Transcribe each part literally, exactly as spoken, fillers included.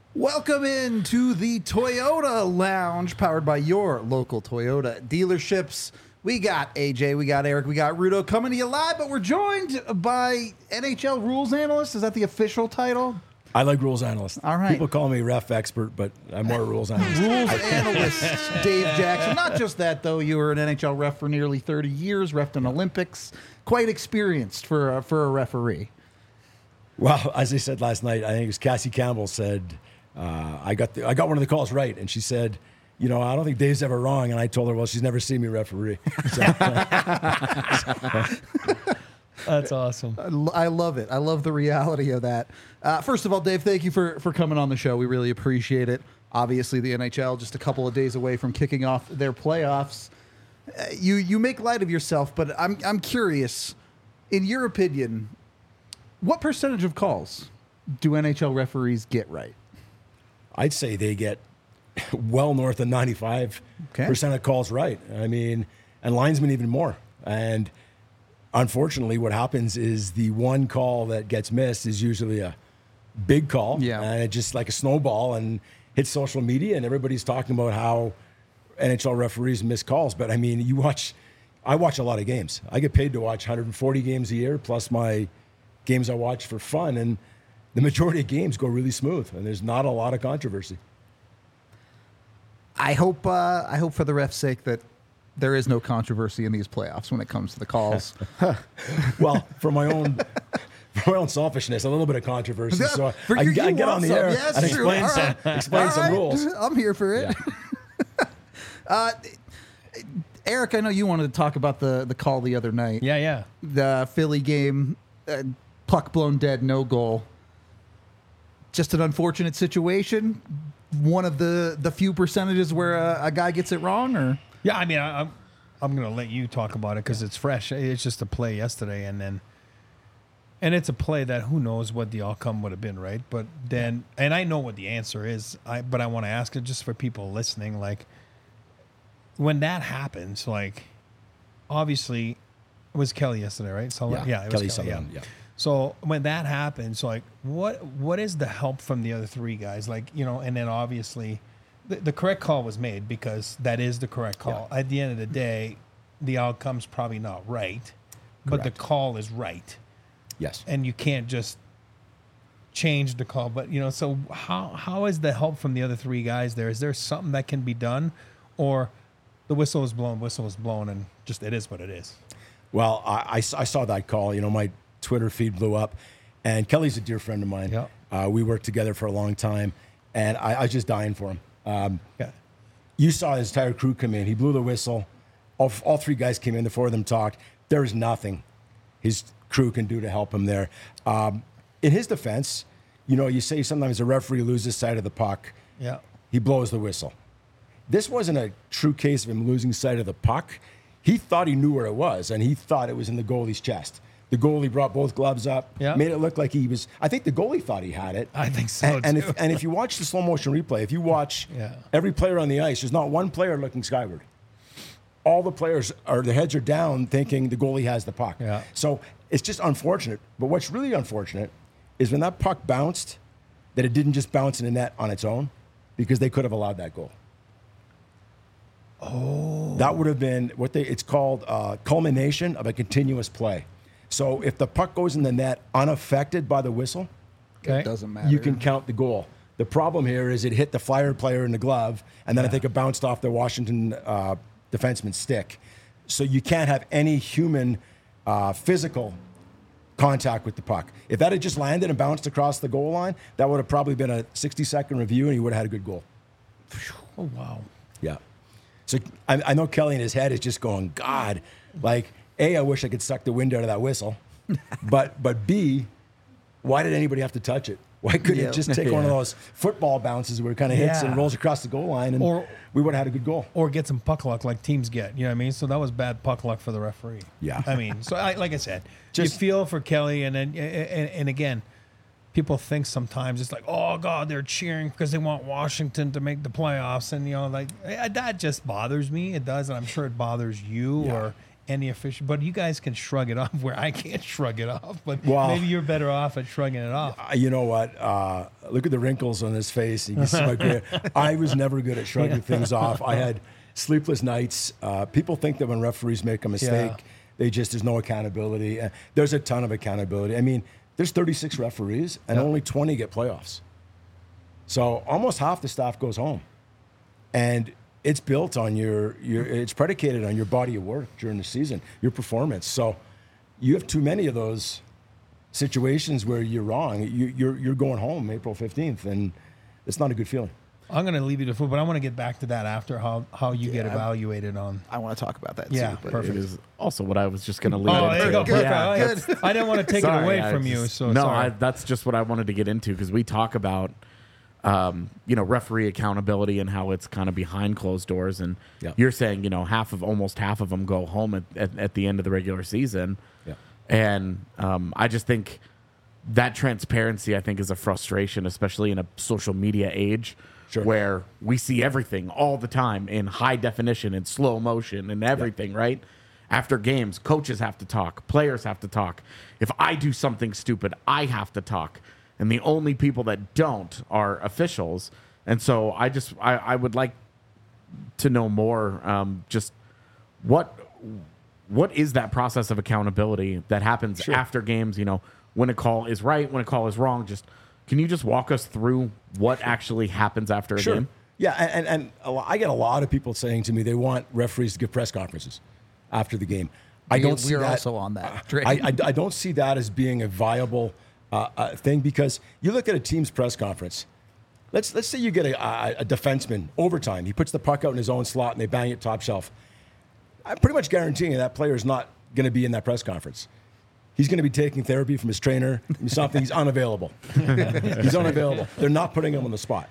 Welcome into the Toyota Lounge, powered by your local Toyota dealerships. We got A J, we got Eric, we got Rudo coming to you live, but we're joined by N H L rules analyst. Is that the official title? I like rules analyst. All right. People call me ref expert, but I'm more a rules analyst. Rules analyst Dave Jackson. Not just that, though. You were an N H L ref for nearly thirty years, refed in Olympics. Quite experienced for a, for a referee. Well, as I said last night, I think it was Cassie Campbell said, uh, I got the, I got one of the calls right, and she said, you know, I don't think Dave's ever wrong. And I told her, well, she's never seen me referee. So, That's awesome. I love it. I love the reality of that. Uh, first of all, Dave, thank you for, for coming on the show. We really appreciate it. Obviously, the N H L just a couple of days away from kicking off their playoffs. Uh, you you make light of yourself, but I'm I'm curious, in your opinion, what percentage of calls do N H L referees get right? I'd say they get well north of ninety-five percent Okay. of calls right. I mean, and linesmen even more. And unfortunately, what happens is the one call that gets missed is usually a big call. Yeah. And it just like a snowball and hits social media, and everybody's talking about how N H L referees miss calls. But I mean, you watch, I watch a lot of games. I get paid to watch one hundred forty games a year, plus my games I watch for fun. And the majority of games go really smooth, and there's not a lot of controversy. I hope uh, I hope for the ref's sake that there is no controversy in these playoffs when it comes to the calls. Well, for my own for my own selfishness, a little bit of controversy. So For I, you- I you get want on the some. air Yes, and true. explain All some, right. explain All some right. rules. I'm here for it. Yeah. uh, Eric, I know you wanted to talk about the, the call the other night. Yeah, yeah. The Philly game, uh, puck blown dead, no goal. Just an unfortunate situation. One of the, the few percentages where a, a guy gets it wrong, or Yeah, I mean, I, I'm I'm gonna let you talk about it because it's fresh. It's just a play yesterday, and then and it's a play that who knows what the outcome would have been, right? But then, and I know what the answer is. I but I want to ask it just for people listening, like when that happens, like obviously it was Kelly yesterday, right? So Yeah, yeah, it Kelly was Kelly, Sutherland, yeah. So when that happens, like what what is the help from the other three guys? Like, you know, and then obviously the, the correct call was made because that is the correct call. Yeah. At the end of the day, the outcome's probably not right, but the Correct. call is right. Yes. And you can't just change the call. But, you know, so how how is the help from the other three guys there? Is there something that can be done, or the whistle is blown, whistle is blown, and just it is what it is? Well, I, I, I saw that call. You know, my Twitter feed blew up, and Kelly's a dear friend of mine. Yeah. Uh, we worked together for a long time, and I, I was just dying for him. Um, Yeah. you saw his entire crew come in. He blew the whistle. All, all three guys came in. The four of them talked. There is nothing his crew can do to help him there. Um, in his defense, you know, you say sometimes a referee loses sight of the puck. Yeah. He blows the whistle. This wasn't a true case of him losing sight of the puck. He thought he knew where it was, and he thought it was in the goalie's chest. The goalie brought both gloves up, Yeah. made it look like he was. I think the goalie thought he had it. I think so, And, and too. if and if you watch the slow motion replay, if you watch Yeah. every player on the ice, there's not one player looking skyward. All the players are their heads are down, thinking the goalie has the puck. Yeah. So it's just unfortunate. But what's really unfortunate is when that puck bounced, that it didn't just bounce in the net on its own, because they could have allowed that goal. Oh. That would have been what they. It's called uh, culmination of a continuous play. So if the puck goes in the net unaffected by the whistle, Okay. it doesn't matter. you can count the goal. The problem here is it hit the Flyer player in the glove, and then I think it bounced off the Washington uh, defenseman's stick. So you can't have any human uh, physical contact with the puck. If that had just landed and bounced across the goal line, that would have probably been a sixty-second review, and he would have had a good goal. Oh, wow. Yeah. So I, I know Kelly in his head is just going, God, like, A, I wish I could suck the wind out of that whistle. but but B, why did anybody have to touch it? Why couldn't Yeah. it just take one of Yeah. those football bounces where it kind of hits Yeah. and rolls across the goal line, and Or- we would have had a good goal? Or get some puck luck like teams get. You know what I mean? So that was bad puck luck for the referee. Yeah. I mean, so I, like I said, Just- you feel for Kelly, and then and, and again, people think sometimes it's like, oh God, they're cheering because they want Washington to make the playoffs, and you know, like eh, that just bothers me. It does, and I'm sure it bothers you Yeah. or any official, but you guys can shrug it off where I can't shrug it off. But Wow. maybe you're better off at shrugging it off. Uh, You know what? Uh, look at the wrinkles on his face. You can see my gray. I was never good at shrugging things off. I had sleepless nights. Uh, people think that when referees make a mistake, Yeah. they just there's no accountability. Uh, there's a ton of accountability. I mean, there's thirty-six referees and Yeah. only twenty get playoffs. So almost half the staff goes home, and it's built on your your. It's predicated on your body of work during the season, your performance. So you have too many of those situations where you're wrong. You, you're you're going home April fifteenth, and it's not a good feeling. I'm going to leave you to food, but I want to get back to that after how, how you get Yeah. evaluated on. I want to talk about that Yeah, too. But perfect. It is also what I was just going to leave. Oh, it there you to. go. Perfect. Yeah. I, Good. I didn't want to take Sorry, it away I from just- you. So no, sorry. I, that's just what I wanted to get into because we talk about, um, you know, referee accountability and how it's kind of behind closed doors. And Yeah. you're saying, you know, half of almost half of them go home at, at, at the end of the regular season. Yeah. And um, I just think that transparency, I think, is a frustration, especially in a social media age. Sure. Where we see everything all the time in high definition and slow motion and everything, right? After games, coaches have to talk, players have to talk. If I do something stupid, I have to talk. And the only people that don't are officials. And so I just, I, I would like to know more, um, just what, what is that process of accountability that happens Sure. after games, you know, when a call is right, when a call is wrong, just, can you just walk us through what actually happens after a Sure. game? Yeah, and, and, and a lo- I get a lot of people saying to me they want referees to give press conferences after the game. I We- don't see we're that. also on that train. I, I, I don't see that as being a viable uh, uh, thing because you look at a team's press conference. Let's let's say you get a, a, a defenseman overtime. He puts the puck out in his own slot and they bang it top shelf. I'm pretty much guaranteeing that player is not going to be in that press conference. He's going to be taking therapy from his trainer, something. He's unavailable. He's unavailable. They're not putting him on the spot.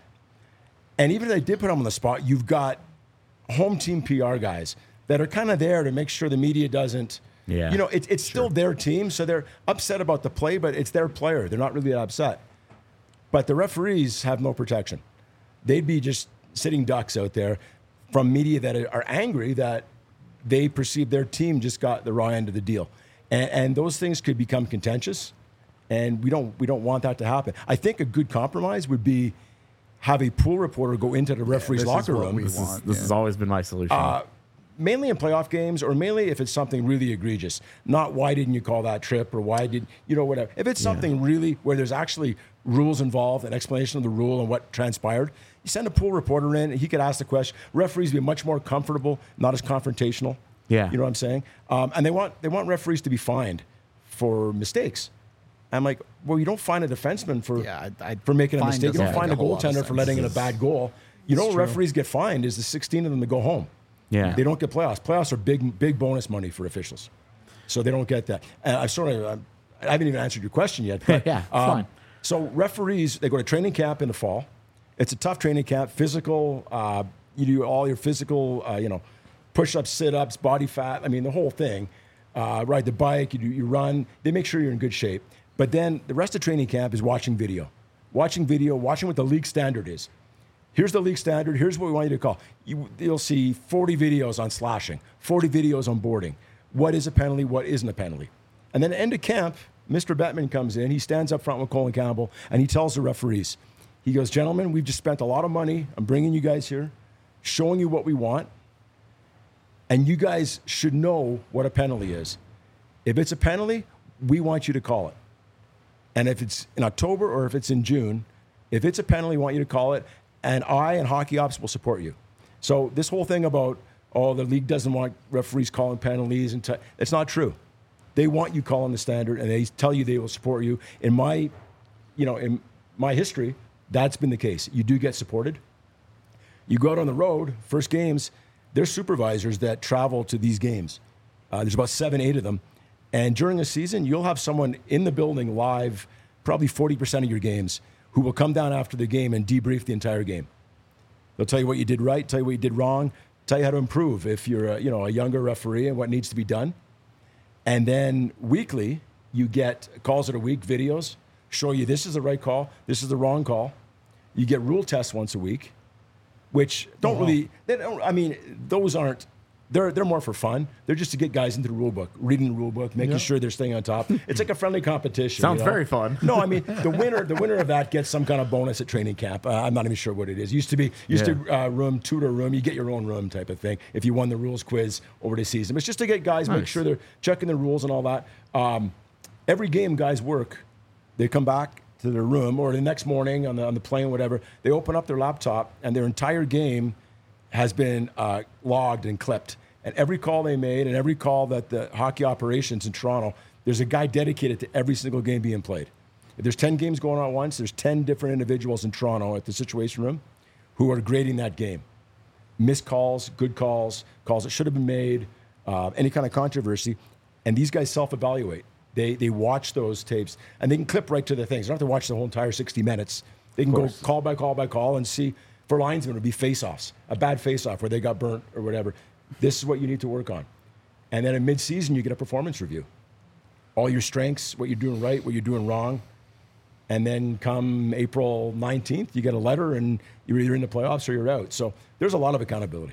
And even if they did put him on the spot, you've got home team P R guys that are kind of there to make sure the media doesn't. Yeah. You know, it, it's still their team, so they're upset about the play, but it's their player. They're not really that upset. But the referees have no protection. They'd be just sitting ducks out there from media that are angry that they perceive their team just got the raw end of the deal. And, and those things could become contentious, and we don't we don't want that to happen. I think a good compromise would be have a pool reporter go into the referee's this is locker what room. we This, is, want, this yeah. has always been my solution. Uh, mainly in playoff games, or mainly if it's something really egregious. Not why didn't you call that trip, or why did you know whatever. If it's something really where there's actually rules involved, an explanation of the rule and what transpired, you send a pool reporter in, and he could ask the question. Referees be much more comfortable, not as confrontational. Yeah. You know what I'm saying? Um, and they want they want referees to be fined for mistakes. I'm like, well, you don't fine a defenseman for Yeah, I- I- for making a fine mistake. You doesn't don't make fine a a whole lot of goaltender for sense. letting in a bad goal. You know, what true. referees get fined is the sixteen of them that go home. Yeah. They don't get playoffs. Playoffs are big, big bonus money for officials, so they don't get that. And I sort of, I'm- I haven't even answered your question yet. But, Yeah, it's fine. So referees, they go to training camp in the fall. It's a tough training camp, physical. Uh, you do all your physical, uh, you know, push-ups, sit-ups, body fat. I mean, the whole thing. Uh, ride the bike, you do, you run. They make sure you're in good shape. But then the rest of training camp is watching video, watching video, watching what the league standard is. Here's the league standard. Here's what we want you to call. You, you'll see forty videos on slashing, forty videos on boarding. What is a penalty? What isn't a penalty? And then at the end of camp, Mister Bettman comes in. He stands up front with Colin Campbell, and he tells the referees, he goes, gentlemen, we've just spent a lot of money. I'm bringing you guys here, showing you what we want. And you guys should know what a penalty is. If it's a penalty, we want you to call it. And if it's in October or if it's in June, if it's a penalty, we want you to call it. And I and Hockey Ops will support you. So this whole thing about, oh, the league doesn't want referees calling penalties, and t- it's not true. They want you calling the standard, and they tell you they will support you. In my, you know, in my history, that's been the case. You do get supported. You go out on the road, first games, there's supervisors that travel to these games. Uh, there's about seven, eight of them. And during a season, you'll have someone in the building live, probably forty percent of your games, who will come down after the game and debrief the entire game. They'll tell you what you did right, tell you what you did wrong, tell you how to improve if you're a, you know, a younger referee and what needs to be done. And then weekly, you get calls of the week, videos, show you this is the right call, this is the wrong call. You get rule tests once a week, which don't Oh, wow. really, they don't, I mean, those aren't They're they're more for fun. They're just to get guys into the rule book, reading the rule book, making Yeah. sure they're staying on top. It's like a friendly competition. Sounds you know? very fun. No, I mean the winner the winner of that gets some kind of bonus at training camp. Uh, I'm not even sure what it is. Used to be used Yeah. to uh, room tutor room. You get your own room type of thing if you won the rules quiz over the season. It's just to get guys make Nice. sure they're checking the rules and all that. Um, every game guys work. They come back to their room or the next morning on the on the plane, whatever. They open up their laptop and their entire game has been uh, logged and clipped. And every call they made and every call that the hockey operations in Toronto, there's a guy dedicated to every single game being played. If there's ten games going on at once, there's ten different individuals in Toronto at the Situation Room who are grading that game. Missed calls, good calls, calls that should have been made, uh, any kind of controversy. And these guys self-evaluate. They, they watch those tapes and they can clip right to the things. They don't have to watch the whole entire sixty minutes. They can go course. call by call by call and see, for linesmen, it would be face-offs, a bad face-off where they got burnt or whatever. This is what you need to work on. And then in mid-season, you get a performance review. All your strengths, what you're doing right, what you're doing wrong. And then come April nineteenth, you get a letter and you're either in the playoffs or you're out. So there's a lot of accountability.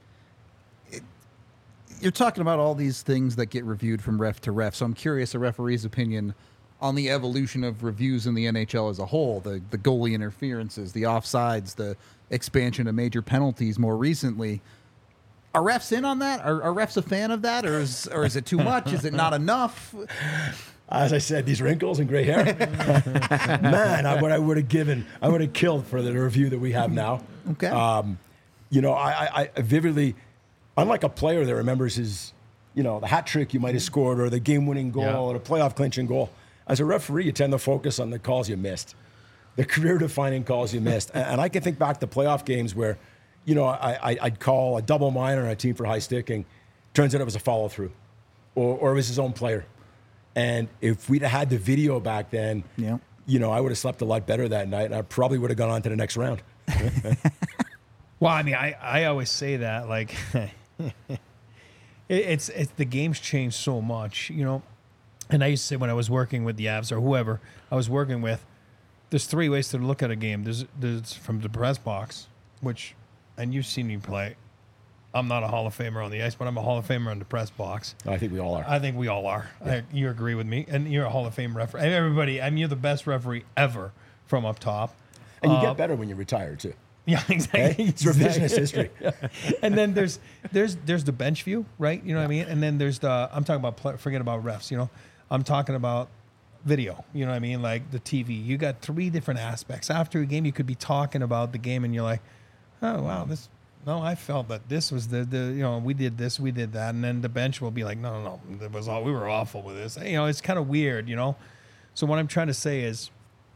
You're talking about all these things that get reviewed from ref to ref. So I'm curious a referee's opinion on the evolution of reviews in the N H L as a whole, the, the goalie interferences, the offsides, the expansion of major penalties more recently. Are refs in on that? Are, are refs a fan of that? Or is, or is it too much? Is it not enough? As I said, these wrinkles and gray hair. Man, I, what I would have given, I would have killed for the review that we have now. Okay. Um, you know, I, I, I vividly, unlike a player that remembers his, you know, the hat trick you might have scored or the game-winning goal Yeah. or the playoff clinching goal. As a referee, you tend to focus on the calls you missed, the career-defining calls you missed. And, and I can think back to playoff games where, you know, I, I, I'd call a double minor on a team for high sticking. Turns out it was a follow-through, or, or it was his own player. And if we'd had the video back then, Yeah. you know, I would have slept a lot better that night, and I probably would have gone on to the next round. Well, I mean, I, I always say that, like, it, it's, it's the game's changed so much, you know. And I used to say when I was working with the Avs or whoever I was working with, there's three ways to look at a game. There's, there's from the press box, which, and you've seen me play. I'm not a Hall of Famer on the ice, but I'm a Hall of Famer on the press box. I think we all are. I think we all are. I, you agree with me, and you're a Hall of Fame referee. And everybody, I mean, you're the best referee ever from up top. And you Uh, get better when you retire, too. Yeah, exactly. Hey? It's revisionist history. And then there's there's there's the bench view, right? You know what I mean? And then there's the I'm talking about play, forget about refs. You know, I'm talking about video. You know what I mean? Like the T V. You got three different aspects. After a game, you could be talking about the game, and you're like, oh wow, this. No, I felt that this was the, the you know we did this, we did that, and then the bench will be like, no, no, no, it was all we were awful with this. You know, it's kind of weird, you know. So what I'm trying to say is,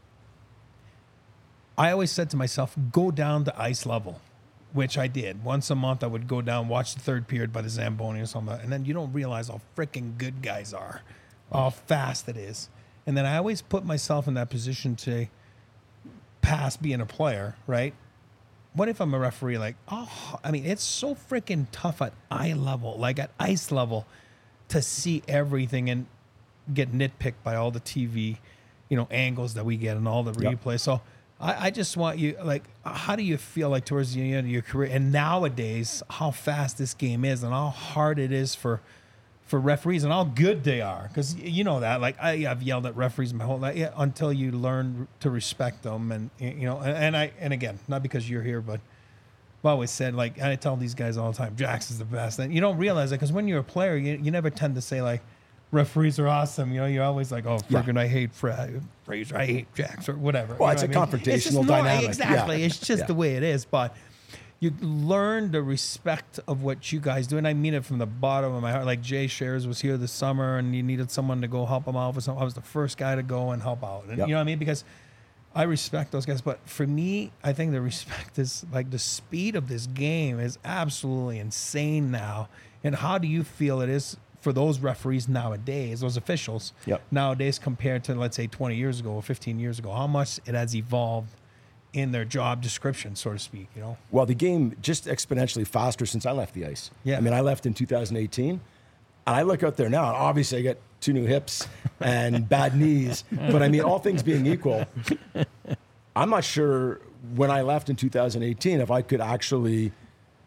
I always said to myself, go down to ice level, which I did. Once a month, I would go down, watch the third period by the Zamboni or something, and then you don't realize how freaking good guys are, how fast it is. And then I always put myself in that position to pass being a player, right? What if I'm a referee? Like, oh, I mean, it's so freaking tough at eye level, like at ice level, to see everything and get nitpicked by all the T V, you know, angles that we get and all the Yep. replay. So I, I just want you, like, how do you feel like towards the end of your career? And nowadays, how fast this game is and how hard it is for for referees and how good they are. Because you know that, like, I, I've yelled at referees my whole life yeah, until you learn to respect them. And, you know, and, and I, and again, not because you're here, but I've always said, like, I tell these guys all the time, Jax is the best. And you don't realize that because when you're a player, you, you never tend to say, like, referees are awesome. You know, you're always like, oh, friggin' I hate Fra- Fraser, I hate Jax, or whatever. Well, You it's know a what I mean? It's just confrontational no- dynamic. Exactly. Yeah. It's just Yeah. the way it is. But you learn the respect of what you guys do. And I mean it from the bottom of my heart. Like Jay Shares was here this summer and you needed someone to go help him out with something. I was the first guy to go and help out. And Yep. you know what I mean? Because I respect those guys. But for me, I think the respect is like the speed of this game is absolutely insane now. And how do you feel it is for those referees nowadays, those officials Yep. nowadays compared to, let's say, twenty years ago or fifteen years ago? How much it has evolved in their job description, so to speak, you know? Well, the game just exponentially faster since I left the ice. Yeah. I mean, I left in two thousand eighteen. And I look out there now, and obviously I got two new hips and bad knees. But I mean, all things being equal, I'm not sure when I left in two thousand eighteen if I could actually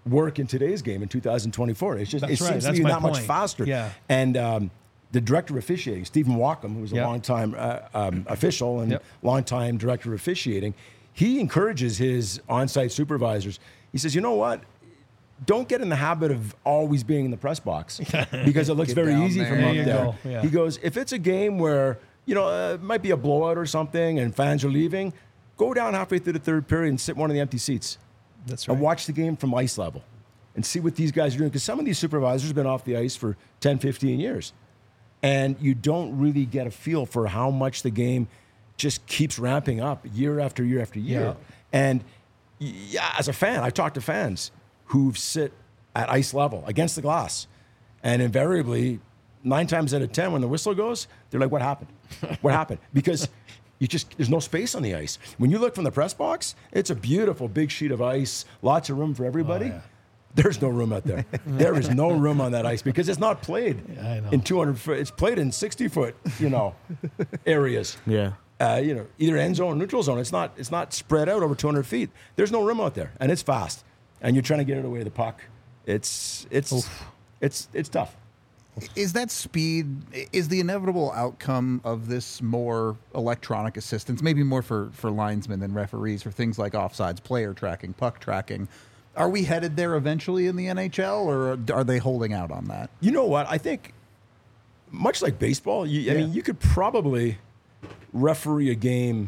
work in today's game in two thousand twenty-four. It's just That's it right. seems That's to be my that much point. faster. Yeah. And um, the director of officiating, Stephen Walkham, who's a Yep. longtime uh, um, official and Yep. longtime director of officiating, he encourages his on-site supervisors. He says, you know what? Don't get in the habit of always being in the press box because it looks Get very down easy there. from There up you there. go. Yeah. He goes, if it's a game where, you know, uh, it might be a blowout or something and fans are leaving, go down halfway through the third period and sit in one of the empty seats That's right. and watch the game from ice level and see what these guys are doing. Because some of these supervisors have been off the ice for ten, fifteen years. And you don't really get a feel for how much the game just keeps ramping up year after year after year. Yeah. And yeah, as a fan, I've talked to fans who sit at ice level against the glass. And invariably, nine times out of ten, when the whistle goes, they're like, what happened? What happened? Because you just, there's no space on the ice. When you look from the press box, it's a beautiful big sheet of ice, lots of room for everybody. Oh, yeah. There's no room out there. There is no room on that ice because it's not played I know. in two hundred foot. It's played in sixty foot, you know, areas. Yeah. Uh, you know, either end zone or neutral zone. It's not. It's not spread out over two hundred feet. There's no room out there, and it's fast. And you're trying to get it away with the puck. It's it's it's it's tough. Is that speed, is the inevitable outcome of this more electronic assistance, maybe more for, for linesmen than referees, for things like offsides, player tracking, puck tracking? Are we headed there eventually in the N H L, or are they holding out on that? You know what? I think much like baseball, you, I Yeah. mean, you could probably referee a game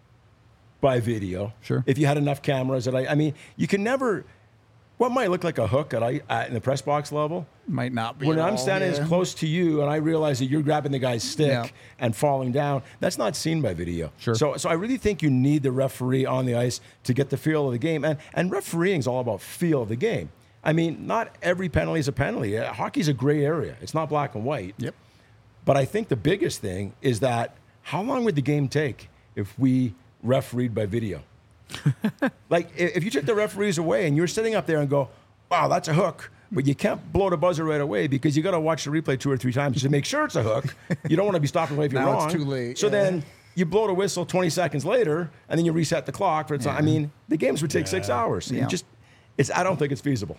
by video. Sure. If you had enough cameras. That I, I mean, you can never. What might look like a hook at, I, at in the press box level, Might not be. when at I'm all, standing yeah. as close to you and I realize that you're grabbing the guy's stick Yeah. and falling down, that's not seen by video. Sure. So, so I really think you need the referee on the ice to get the feel of the game. And, and refereeing is all about feel of the game. I mean, not every penalty is a penalty. Uh, Hockey's a gray area. It's not black and white. Yep. But I think the biggest thing is that how long would the game take if we refereed by video? Like, i- if you took the referees away and you're sitting up there and go, wow, that's a hook, but you can't blow the buzzer right away because you got to watch the replay two or three times to make sure it's a hook. You don't want to be stopped away if you're Now wrong. it's too late, So yeah. then you blow the whistle twenty seconds later and then you reset the clock. For it's I mean, the games would take six hours. Yeah. You just, it's, I don't think it's feasible.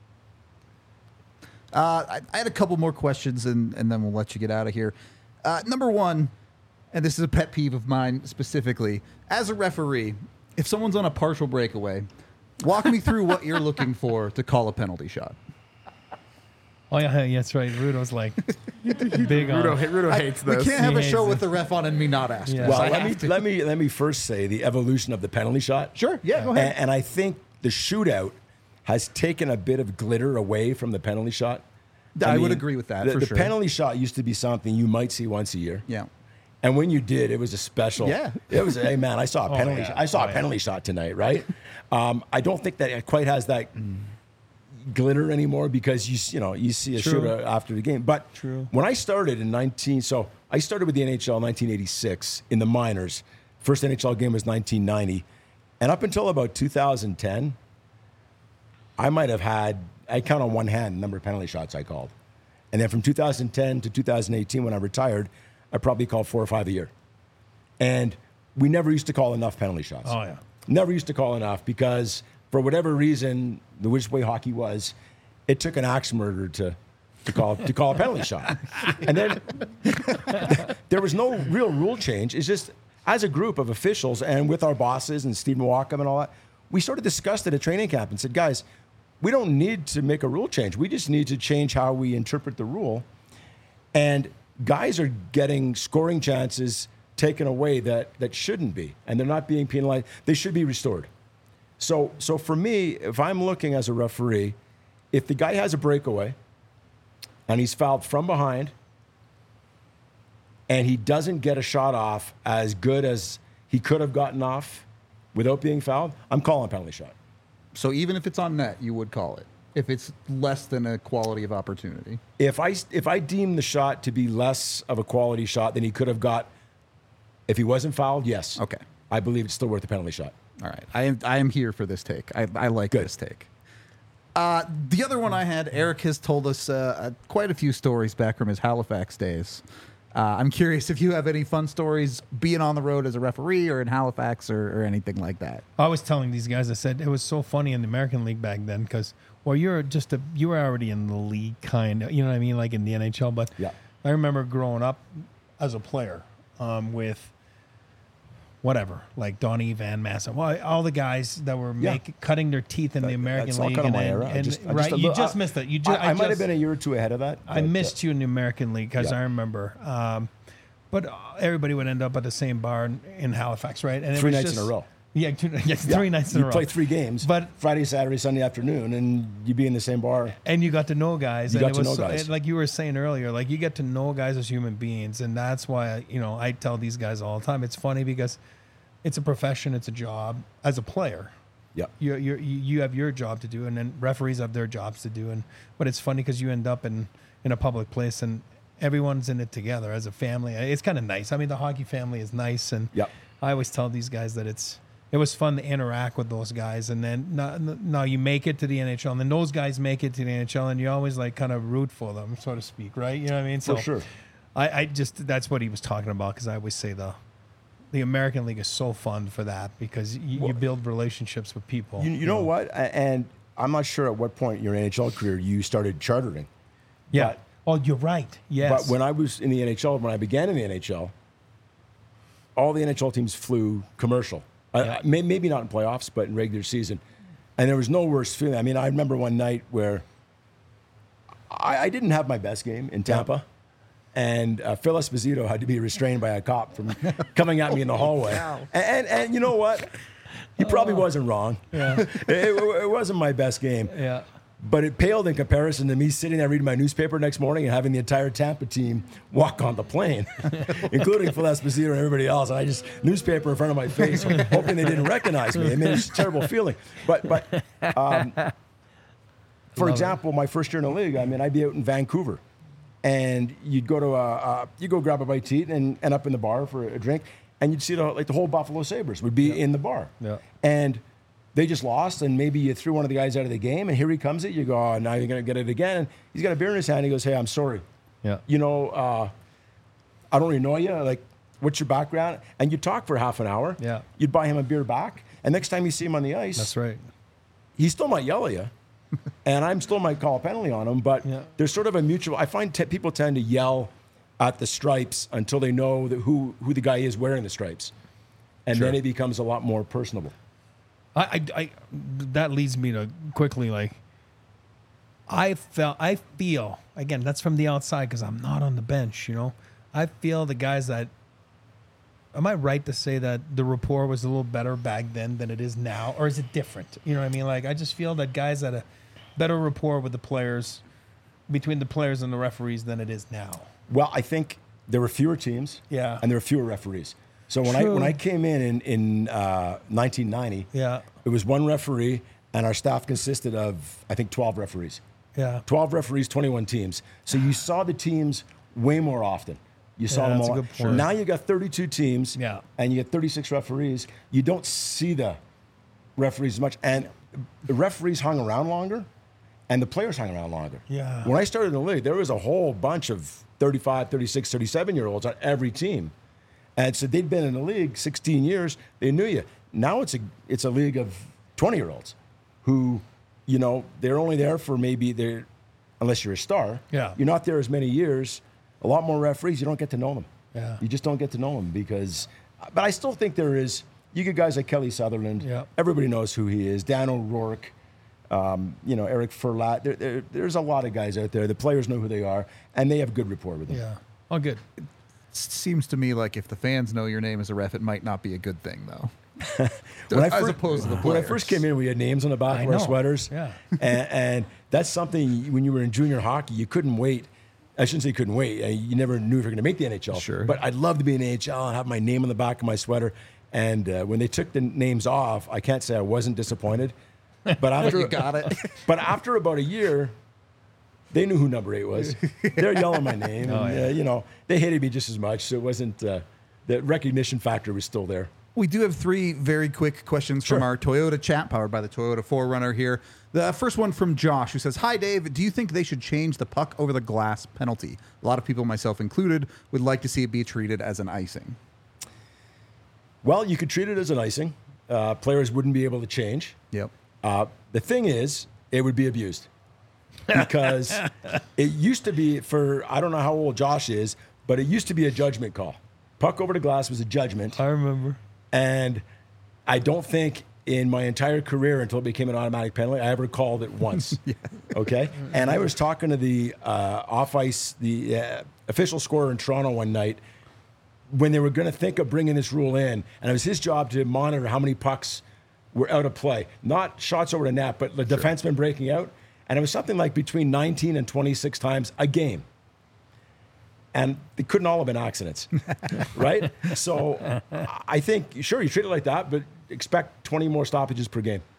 Uh, I, I had a couple more questions, and, and then we'll let you get out of here. Uh, number one, and this is a pet peeve of mine specifically, as a referee, if someone's on a partial breakaway, walk me through what you're looking for to call a penalty shot. Oh yeah, yeah, that's right. Rudo's like big on. Rudo, Rudo I- hates we this. can't have a He show hates with the ref on and me not ask. Yeah. this. Well, I let have me, to. let me let me first say the evolution of the penalty shot. Sure, yeah, go And, ahead. and I think the shootout has taken a bit of glitter away from the penalty shot. I would agree with that, The, for the sure. penalty shot used to be something you might see once a year. Yeah. And when you did, it was a special. Yeah. It was, hey, man, I saw a penalty yeah. shot. I saw Oh, a yeah. penalty shot tonight, right? um, I don't think that it quite has that glitter anymore because you s- you know you see a True. shootout after the game. But True. when I started in nineteen, so I started with the N H L in nineteen eighty-six in the minors. First N H L game was nineteen ninety, and up until about two thousand ten, I might have had I count on one hand the number of penalty shots I called, and then from two thousand ten to two thousand eighteen when I retired, I probably called four or five a year, and we never used to call enough penalty shots. Oh yeah. Never used to call enough because for whatever reason, the which way hockey was, it took an axe murderer to to call to call a penalty shot. And then there was no real rule change. It's just as a group of officials and with our bosses and Stephen Walkham and all that, we sort of discussed it at training camp and said, guys, we don't need to make a rule change. We just need to change how we interpret the rule. And guys are getting scoring chances taken away that, that shouldn't be, and they're not being penalized. They should be restored. So, so for me, if I'm looking as a referee, if the guy has a breakaway and he's fouled from behind and he doesn't get a shot off as good as he could have gotten off without being fouled, I'm calling a penalty shot. So even if it's on net, you would call it if it's less than a quality of opportunity. If I, if I deem the shot to be less of a quality shot than he could have got if he wasn't fouled, yes. Okay. I believe it's still worth a penalty shot. All right, I am I am here for this take. I, I like Good. this take. Uh, the other one I had, Eric has told us uh, uh, quite a few stories back from his Halifax days. Uh, I'm curious if you have any fun stories being on the road as a referee or in Halifax or, or anything like that. I was telling these guys, I said it was so funny in the American League back then because, well, you're just a you were already in the league kind of, you know what I mean, like in the N H L. But Yeah. I remember growing up as a player um, with whatever, like Donnie Van Massa, well, all the guys that were Yeah. make, cutting their teeth in the American That's all League. kind of my and, era. I and- just- I right, just a you little- just I- missed it. You ju- I, I might have just- been a year or two ahead of that. I but, uh, missed you in the American League because Yeah. I remember. Um, but everybody would end up at the same bar in, in Halifax, right? And it Three was nights in just- a row. Yeah, two, yeah, three nights in you a row. play three games, But- Friday, Saturday, Sunday afternoon, and you'd be in the same bar. And you got to know guys. You and got it to was know so- guys. and like you were saying earlier, like you get to know guys as human beings, and that's why you know I tell these guys all the time. It's funny because it's a profession, it's a job. As a player, Yeah. you you you have your job to do, and then referees have their jobs to do. And but it's funny because you end up in in a public place and everyone's in it together as a family. It's kind of nice. I mean, the hockey family is nice, and Yep. I always tell these guys that it's it was fun to interact with those guys, and then now, now you make it to the N H L, and then those guys make it to the N H L, and you always like kind of root for them, so to speak, right? You know what I mean? So For sure. I, I just that's what he was talking about because I always say the the American League is so fun for that because you, you build relationships with people. You, you know what? A- And I'm not sure at what point in your N H L career you started chartering. Yeah. But- oh, you're right. Yes. But when I was in the N H L, when I began in the N H L, all the N H L teams flew commercial. I- Yeah. I, may, maybe not in playoffs, but in regular season. And there was no worse feeling. I mean, I remember one night where I, I didn't have my best game in Tampa. And uh, Phil Esposito had to be restrained by a cop from coming at me in the hallway. Wow. And, and, and you know what? He probably wasn't wrong. Yeah. it, it, it wasn't my best game. yeah. But it paled in comparison to me sitting there reading my newspaper next morning and having the entire Tampa team walk on the plane, including Phil Esposito and everybody else. And I just newspaper in front of my face, hoping they didn't recognize me. I mean, it's a terrible feeling. But but um, for Love example, my first year in the league, I mean, I'd be out in Vancouver, and you'd go to a, a you go grab a bite to eat and end up in the bar for a drink, and you'd see the, like the whole Buffalo Sabres would be in the bar, Yeah. and they just lost, and maybe you threw one of the guys out of the game, and here he comes it. You go, oh, now you're going to get it again. And he's got a beer in his hand. He goes, hey, I'm sorry. Yeah. You know, uh, I don't really know you. Like, what's your background? And you talk for half an hour. Yeah. You'd buy him a beer back. And next time you see him on the ice, That's right. he still might yell at you. and I'm still might call a penalty on him. But Yeah. there's sort of a mutual. I find te- people tend to yell at the stripes until they know that who, who the guy is wearing the stripes. And Sure. then it becomes a lot more personable. I, I, I that leads me to quickly like I felt I feel again that's from the outside because I'm not on the bench, you know. I feel the guys that am I right to say that the rapport was a little better back then than it is now, or is it different? You know what I mean? Like I just feel that guys had a better rapport with the players between the players and the referees than it is now. Well, I think there were fewer teams. Yeah. And there were fewer referees. So when I True. when I came in in, in uh, nineteen ninety, Yeah. it was one referee, and our staff consisted of I think twelve referees. Yeah. twelve referees, twenty-one teams. So you saw the teams way more often. You saw Yeah, them that's a all. good point. Now you got thirty-two teams, Yeah. and you get thirty-six referees. You don't see the referees as much, and the referees hung around longer, and the players hung around longer. Yeah. When I started in the league, there was a whole bunch of thirty-five, thirty-six, thirty-seven year olds on every team. And so they'd been in the league sixteen years. They knew you. Now it's a it's a league of twenty year olds who, you know, they're only there for maybe they're unless you're a star. Yeah. You're not there as many years. A lot more referees. You don't get to know them. Yeah. You just don't get to know them because. But I still think there is. You get guys like Kelly Sutherland. Yeah. Everybody knows who he is. Dan O'Rourke. Um, you know, Eric Furlat. There, there, there's a lot of guys out there. The players know who they are, and they have good rapport with them. Yeah. Oh, good. Seems to me like if the fans know your name as a ref, it might not be a good thing, though. When I as fir- opposed to the When I players. first came in, we had names on the back I of our know. sweaters. Yeah. and, and that's something when you were in junior hockey, you couldn't wait. I shouldn't say couldn't wait. Uh, You never knew if you were going to make the N H L. Sure. But I'd love to be in the N H L and have my name on the back of my sweater. And uh, when they took the names off, I can't say I wasn't disappointed. But after, You got it. but after about a year, they knew who number eight was. They're yelling my name. Oh, and, yeah. uh, you know, they hated me just as much. So it wasn't, uh, the recognition factor was still there. We do have three very quick questions Sure. from our Toyota chat, powered by the Toyota four runner here. The first one from Josh, who says, "Hi, Dave. Do you think they should change the puck over the glass penalty? A lot of people, myself included, would like to see it be treated as an icing." Well, you could treat it as an icing. Uh, players wouldn't be able to change. Yep. Uh, the thing is, it would be abused because it used to be for, I don't know how old Josh is, but it used to be a judgment call. Puck over the glass was a judgment. I remember. And I don't think in my entire career until it became an automatic penalty, I ever called it once. yeah. Okay. And I was talking to the uh, off ice, the uh, official scorer in Toronto one night when they were going to think of bringing this rule in. And it was his job to monitor how many pucks were out of play, not shots over the net, but the sure. defenseman breaking out. And it was something like between nineteen and twenty-six times a game. And they couldn't all have been accidents, right? So I think, sure, you treat it like that, but expect twenty more stoppages per game.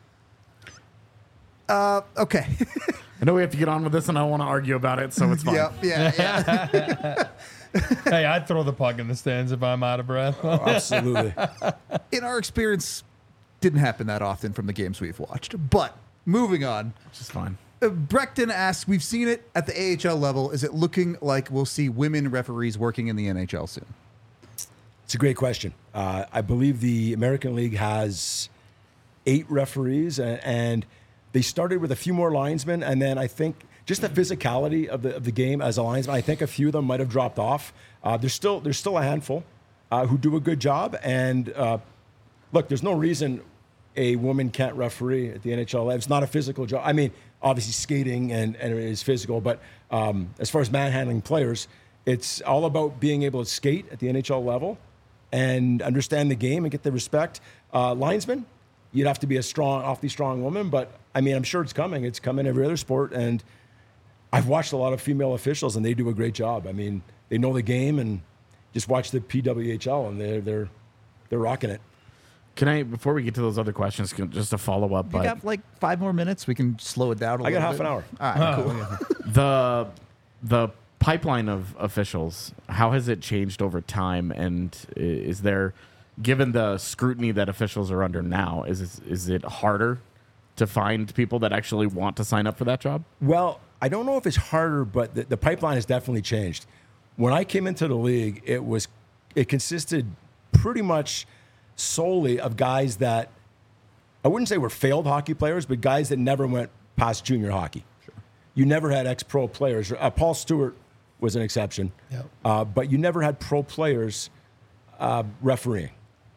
Uh, okay. I know we have to get on with this, and I don't want to argue about it, so it's fine. Yep, yeah, yeah. Hey, I'd throw the puck in the stands if I'm out of breath. Oh, absolutely. In our experience, didn't happen that often from the games we've watched. But moving on. Which is fine. Uh, Breckton asks, we've seen it at the A H L level. Is it looking like we'll see women referees working in the N H L soon? It's a great question. Uh, I believe the American League has eight referees, and, and they started with a few more linesmen, and then I think just the physicality of the of the game as a linesman, I think a few of them might have dropped off. Uh, there's still there's still a handful uh, who do a good job, and uh, look, there's no reason a woman can't referee at the N H L. It's not a physical job. I mean, obviously skating and, and it is physical, but um, as far as manhandling players, it's all about being able to skate at the N H L level and understand the game and get the respect. Uh, linesman, you'd have to be a strong, awfully strong woman, but I mean, I'm sure it's coming. It's coming every other sport, and I've watched a lot of female officials, and they do a great job. I mean, they know the game, and just watch the P W H L, and they're they're they're rocking it. Can I, before we get to those other questions, can- just a follow up? You But got like five more minutes. We can slow it down a I little got bit. half an hour. All right, Oh, cool. yeah. the the pipeline of officials, how has it changed over time? And i- is there, given the scrutiny that officials are under now, is is, is it harder to find people that actually want to sign up for that job? Well, I don't know if it's harder, but the, the pipeline has definitely changed. When I came into the league, it was it consisted pretty much solely of guys that I wouldn't say were failed hockey players, but guys that never went past junior hockey. Sure. You never had ex-pro players. Uh, Paul Stewart was an exception, Yep. uh, but you never had pro players uh, refereeing.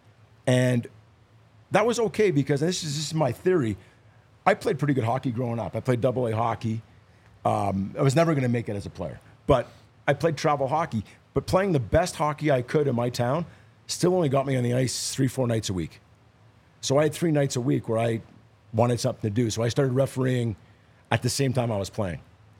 And that was okay because this is, this is my theory. I played pretty good hockey growing up. I played double A hockey. Um, I was never going to make it as a player, but I played travel hockey. But playing the best hockey I could in my town still only got me on the ice three, four nights a week. So I had three nights a week where I wanted something to do. So I started refereeing at the same time I was playing.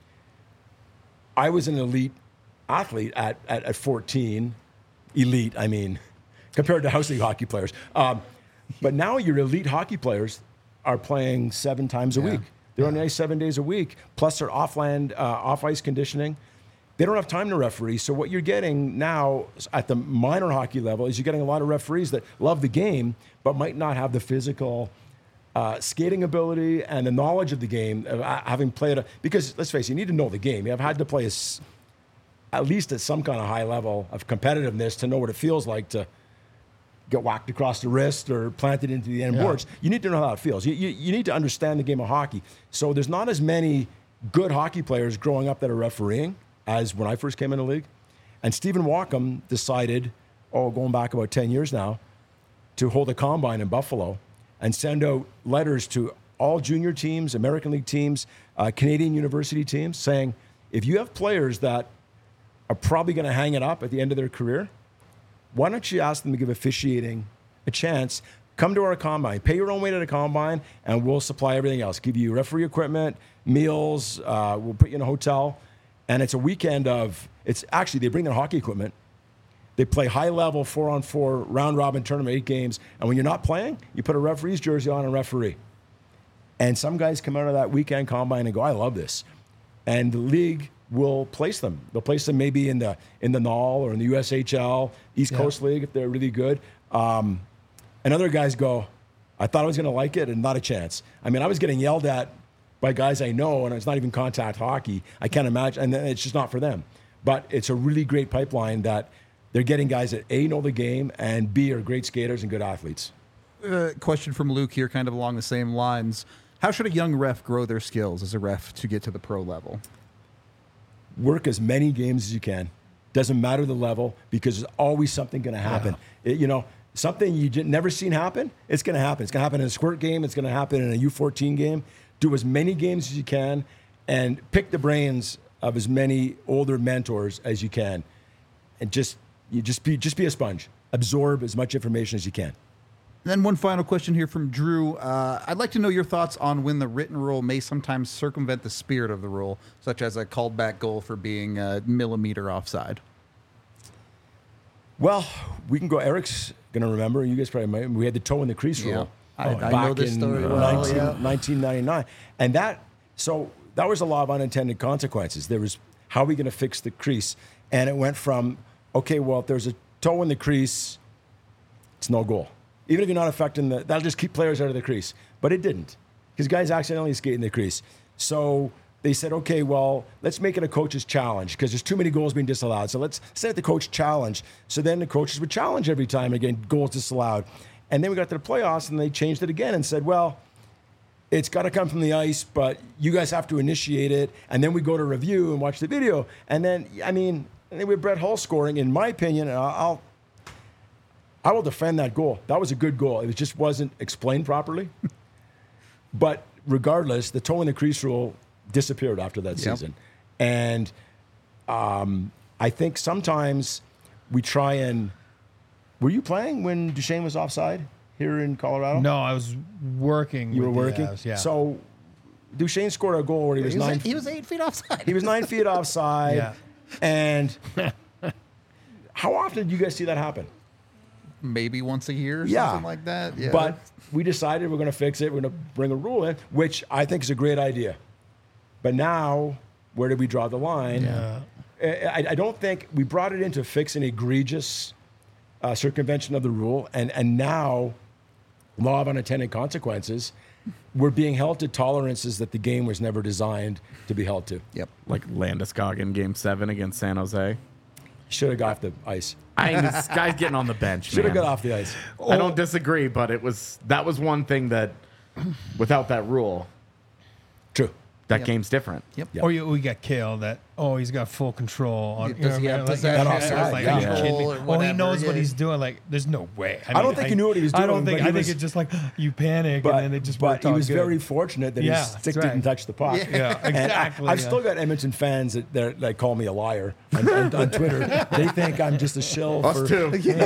I was an elite athlete at, at, at fourteen. Elite, I mean, compared to house league hockey players. Um, but now your elite hockey players are playing seven times a Yeah. week. They're on the ice seven days a week, plus their off-land, uh, off-ice conditioning. They don't have time to referee. So what you're getting now at the minor hockey level is you're getting a lot of referees that love the game, but might not have the physical uh, skating ability and the knowledge of the game, of uh, having played a, because let's face it, you need to know the game. You have had to play a s at least at some kind of high level of competitiveness to know what it feels like to get whacked across the wrist or planted into the end Yeah. boards. You need to know how it feels. You, you, you need to understand the game of hockey. So there's not as many good hockey players growing up that are refereeing as when I first came in the league. And Stephen Walkham decided, oh, going back about ten years now, to hold a combine in Buffalo and send out letters to all junior teams, American League teams, uh, Canadian university teams, saying, if you have players that are probably going to hang it up at the end of their career, why don't you ask them to give officiating a chance? Come to our combine, pay your own way to the combine, and we'll supply everything else. Give you referee equipment, meals, uh, we'll put you in a hotel. And it's a weekend of, it's actually, they bring their hockey equipment. They play high-level four-on-four round-robin tournament, eight games. And when you're not playing, you put a referee's jersey on and referee. And some guys come out of that weekend combine and go, I love this. And the league will place them. They'll place them maybe in the in the N H L or in the U S H L, East Yeah. Coast League if they're really good. Um, And other guys go, I thought I was going to like it and not a chance. I mean, I was getting yelled at by guys I know, and it's not even contact hockey. I can't imagine, and it's just not for them. But it's a really great pipeline that they're getting guys that A, know the game, and B, are great skaters and good athletes. Uh, question from Luke here, kind of along the same lines. How should a young ref grow their skills as a ref to get to the pro level? Work as many games as you can. Doesn't matter the level, because there's always something going to happen. It, you know, something you j- never seen happen, it's going to happen. It's going to happen in a squirt game. It's going to happen in a U fourteen game. Do as many games as you can and pick the brains of as many older mentors as you can. And just you just be just be a sponge. Absorb as much information as you can. And then one final question here from Drew. Uh, I'd like to know your thoughts on when the written rule may sometimes circumvent the spirit of the rule, such as a called back goal for being a millimeter offside. Well, we can go. Eric's going to remember. You guys probably might. We had the toe in the crease Yeah. rule. I- I back know this in story well, nineteen yeah. nineteen ninety-nine. And that, so that was a lot of unintended consequences. There was, how are we going to fix the crease? And it went from, okay, well, if there's a toe in the crease, it's no goal. Even if you're not affecting the, that'll just keep players out of the crease. But it didn't, because guys accidentally skate in the crease. So they said, okay, well, let's make it a coach's challenge, because there's too many goals being disallowed. So let's set the coach challenge. So then the coaches would challenge every time, again, goals disallowed. And then we got to the playoffs, and they changed it again and said, well, it's got to come from the ice, but you guys have to initiate it. And then we go to review and watch the video. And then, I mean, and then with Brett Hull scoring, in my opinion, and I'll, I will defend that goal. That was a good goal. It just wasn't explained properly. But regardless, the toe in the crease rule disappeared after that Yep. season. And um, I think sometimes we try and, were you playing when Duchesne was offside here in Colorado? No, I was working. You were with working? The Avs, yeah. So Duchesne scored a goal where he was He was, nine eight, he was eight feet offside. He was nine feet offside. Yeah. And how often do you guys see that happen? Maybe once a year or Yeah. something like that. Yeah. But we decided we're going to fix it. We're going to bring a rule in, which I think is a great idea. But now, where did we draw the line? Yeah. I, I don't think we brought it in to fix an egregious uh, circumvention of the rule. And, and now, law of unintended consequences, we're being held to tolerances that the game was never designed to be held to. Yep. Like Landeskog in Game Seven against San Jose. Should have got off the ice. I mean, this guy's getting on the bench. Should have man. got off the ice. I don't disagree, but it was that was one thing that, without that rule, True. that Yep. game's different. Yep. Yeah. Or you, we got Kale that, oh, he's got full control. On, Does he you know, have like, possession like, or like, yeah. are you kidding me? control or Oh, he whatever, knows what yeah. he's doing. Like, there's no way. I, I don't mean, think he knew what he was I doing, don't think. but he I think was- it's just like you panic But, and then it just but worked he out was good. very fortunate that Yeah, his stick that's right. didn't touch the puck. Yeah, And exactly. I, have yeah. still got Edmonton fans that, that, that call me a liar on, on, on Twitter. They think I'm just a shill Us for, too.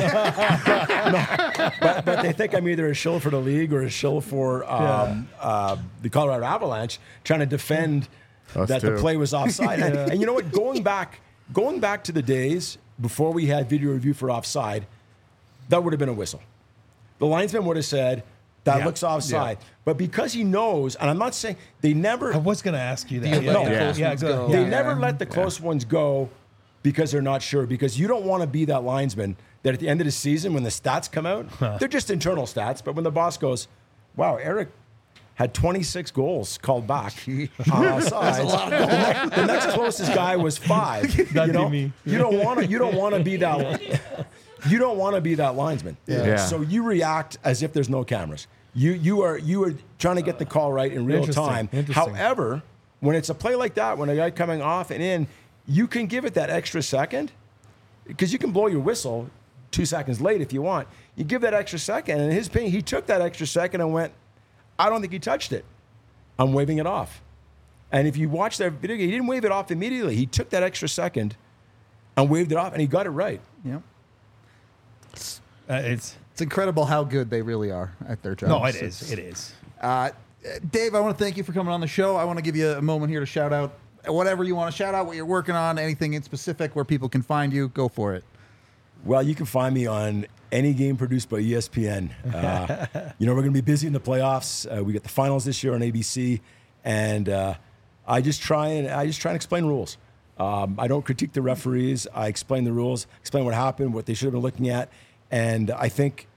but, but they think I'm either a shill for the league or a shill for um, uh, the Colorado Avalanche, trying to defend Us that too. the play was offside. and, and you know what? Going back, going back to the days before we had video review for offside, that would have been a whistle. The linesman would have said, that Yeah. looks offside. But because he knows, and I'm not saying they never I was gonna ask you that. You Yeah, let the yeah, close yeah, ones go- go. they yeah. never let the close ones go because they're not sure. Because you don't want to be that linesman that at the end of the season, when the stats come out, they're just internal stats. But when the boss goes, wow, Eric had twenty-six goals called back on offsides. The, next, the next closest guy was five. That'd you know, be me. you don't want to. You don't want to be that. You don't want to be that linesman. Yeah. So you react as if there's no cameras. You you are you are trying to get the call right in real Interesting, time. interesting. However, when it's a play like that, when a guy coming off and in, you can give it that extra second because you can blow your whistle two seconds late if you want. You give that extra second, and in his opinion, he took that extra second and went, I don't think he touched it. I'm waving it off. And if you watch that video, he didn't wave it off immediately. He took that extra second and waved it off, and he got it right. Yep. Uh, it's It's incredible how good they really are at their job. no, it is. It is. Uh, Dave, I want to thank you for coming on the show. I want to give you a moment here to shout out whatever you want to shout out, what you're working on, anything in specific where people can find you. Go for it. Well, you can find me on any game produced by E S P N. Uh, you know, we're going to be busy in the playoffs. Uh, we got the finals this year on A B C, and uh, I just try and I just try and explain rules. Um, I don't critique the referees. I explain the rules, explain what happened, what they should have been looking at, and I think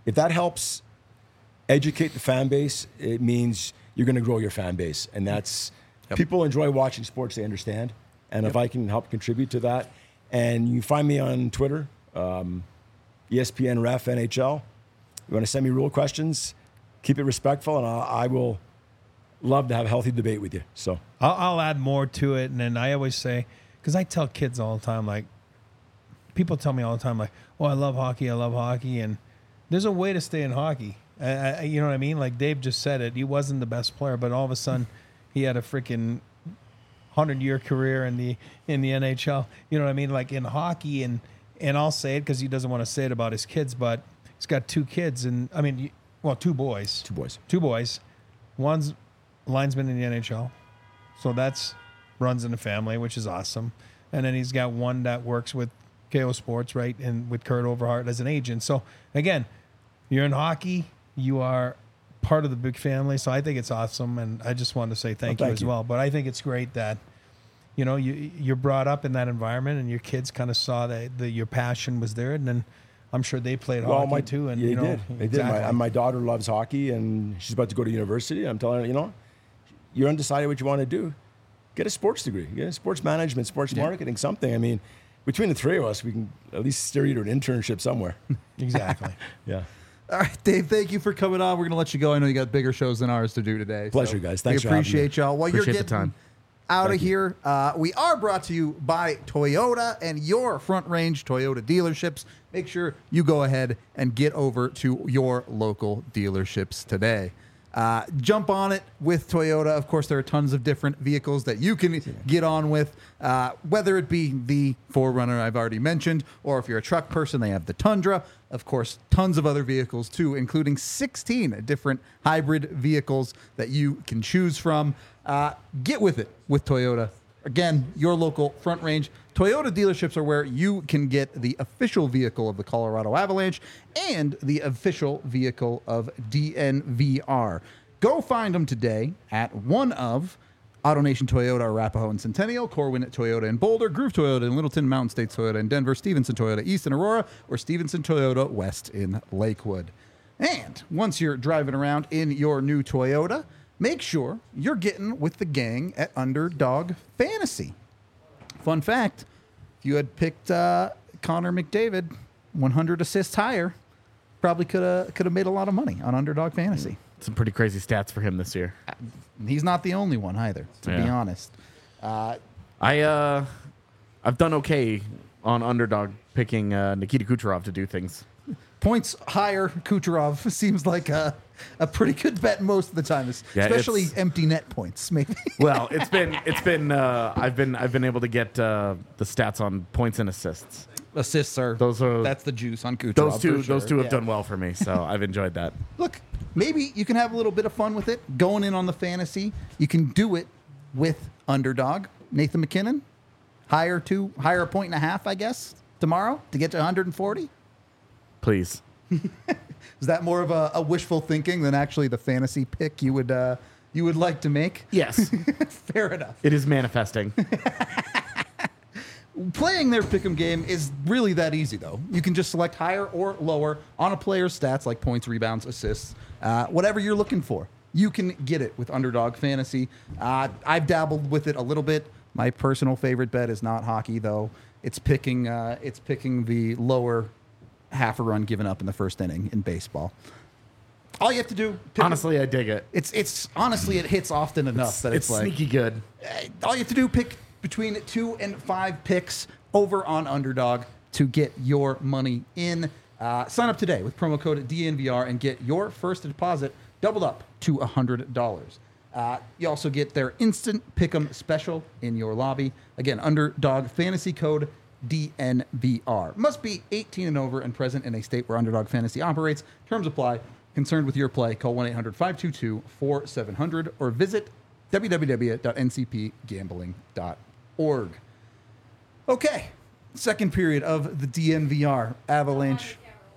if that helps educate the fan base, it means you're going to grow your fan base. And that's, Yep. people enjoy watching sports, they understand. And if I can help contribute to that, and you find me on Twitter, um, E S P N Ref N H L, you want to send me rule questions, keep it respectful, and I, I will love to have a healthy debate with you. So I'll, I'll add more to it. And then I always say, because I tell kids all the time, like, people tell me all the time, like, oh, I love hockey, I love hockey. And there's a way to stay in hockey. I, I, you know what I mean? Like Dave just said it. He wasn't the best player, but all of a sudden he had a freaking hundred-year career in the in the N H L. You know what I mean? Like in hockey, and and I'll say it because he doesn't want to say it about his kids, but he's got two kids, and I mean, well, two boys. two boys. Two boys. One's linesman in the N H L, so that's runs in the family, which is awesome. And then he's got one that works with K O Sports, right, and with Kurt Overhart as an agent. So again, you're in hockey, you are part of the big family. So I think it's awesome, and I just wanted to say thank, Well, you thank as you. well. But I think it's great that you know you you're brought up in that environment, and your kids kind of saw that the, your passion was there, and then I'm sure they played Well, hockey my, too. And yeah, you they know, did. They exactly. did. My, my daughter loves hockey, and she's about to go to university. I'm telling her, you know, you're undecided what you want to do. Get a sports degree. Get a sports management, sports marketing, something. I mean, between the three of us, we can at least steer you to an internship somewhere. Exactly. Yeah. All right, Dave, thank you for coming on. We're going to let you go. I know you got bigger shows than ours to do today. Pleasure, guys. Thanks We for having appreciate y'all. While Appreciate you're the getting time. out Thank of you. here, uh, we are brought to you by Toyota and your Front Range Toyota dealerships. Make sure you go ahead and get over to your local dealerships today. Uh, jump on it with Toyota. Of course, there are tons of different vehicles that you can get on with, uh, whether it be the four runner I've already mentioned, or if you're a truck person, they have the Tundra. Of course, tons of other vehicles too, including sixteen different hybrid vehicles that you can choose from. Uh, get with it with Toyota. Again, your local Front Range Toyota dealerships are where you can get the official vehicle of the Colorado Avalanche and the official vehicle of D N V R. Go find them today at one of AutoNation Toyota, Arapahoe and Centennial, Corwin Toyota in Boulder, Groove Toyota in Littleton, Mountain States Toyota in Denver, Stevenson Toyota East in Aurora, or Stevenson Toyota West in Lakewood. And once you're driving around in your new Toyota, make sure you're getting with the gang at Underdog Fantasy. Fun fact, if you had picked uh, Connor McDavid, one hundred assists higher, probably could have could have made a lot of money on Underdog Fantasy. Some pretty crazy stats for him this year. He's not the only one either, to be Yeah. honest. Uh, I uh, I've done okay on underdog picking uh, Nikita Kucherov to do things. points higher, Kucherov seems like a, a pretty good bet most of the time, Yeah, especially it's- empty net points, maybe. Well, it's been it's been uh, I've been I've been able to get uh, the stats on points and assists. Assists are Those are- that's the juice on Kucherov. Those two for sure. those two have Yeah. done well for me, so I've enjoyed that. Look, maybe you can have a little bit of fun with it. Going in on the fantasy, you can do it with Underdog. Nathan McKinnon, higher two, higher a point and a half, I guess, tomorrow to get to one hundred forty. Please. Is that more of a, a wishful thinking than actually the fantasy pick you would uh, you would like to make? Yes, Fair enough. it is manifesting. Playing their pick'em game is really that easy, though. You can just select higher or lower on a player's stats like points, rebounds, assists, uh, whatever you're looking for. You can get it with Underdog Fantasy. Uh, I've dabbled with it a little bit. My personal favorite bet is not hockey, though. It's picking. Uh, it's picking the lower half a run given up in the first inning in baseball. All you have to do, pick Honestly, I dig it. it's it's honestly it hits often enough that it's, It's like sneaky good. uh, all you have to do pick between two and five picks over on Underdog to get your money in. Uh, sign up today with promo code D N V R and get your first deposit doubled up to one hundred dollars. Uh, you also get their instant pick'em special in your lobby. Again, Underdog Fantasy code D N V R. Must be eighteen and over and present in a state where Underdog Fantasy operates. Terms apply. Concerned with your play, call one eight hundred five two two four seven zero zero or visit w w w dot n c p gambling dot org. Okay, second period of the D N V R Avalanche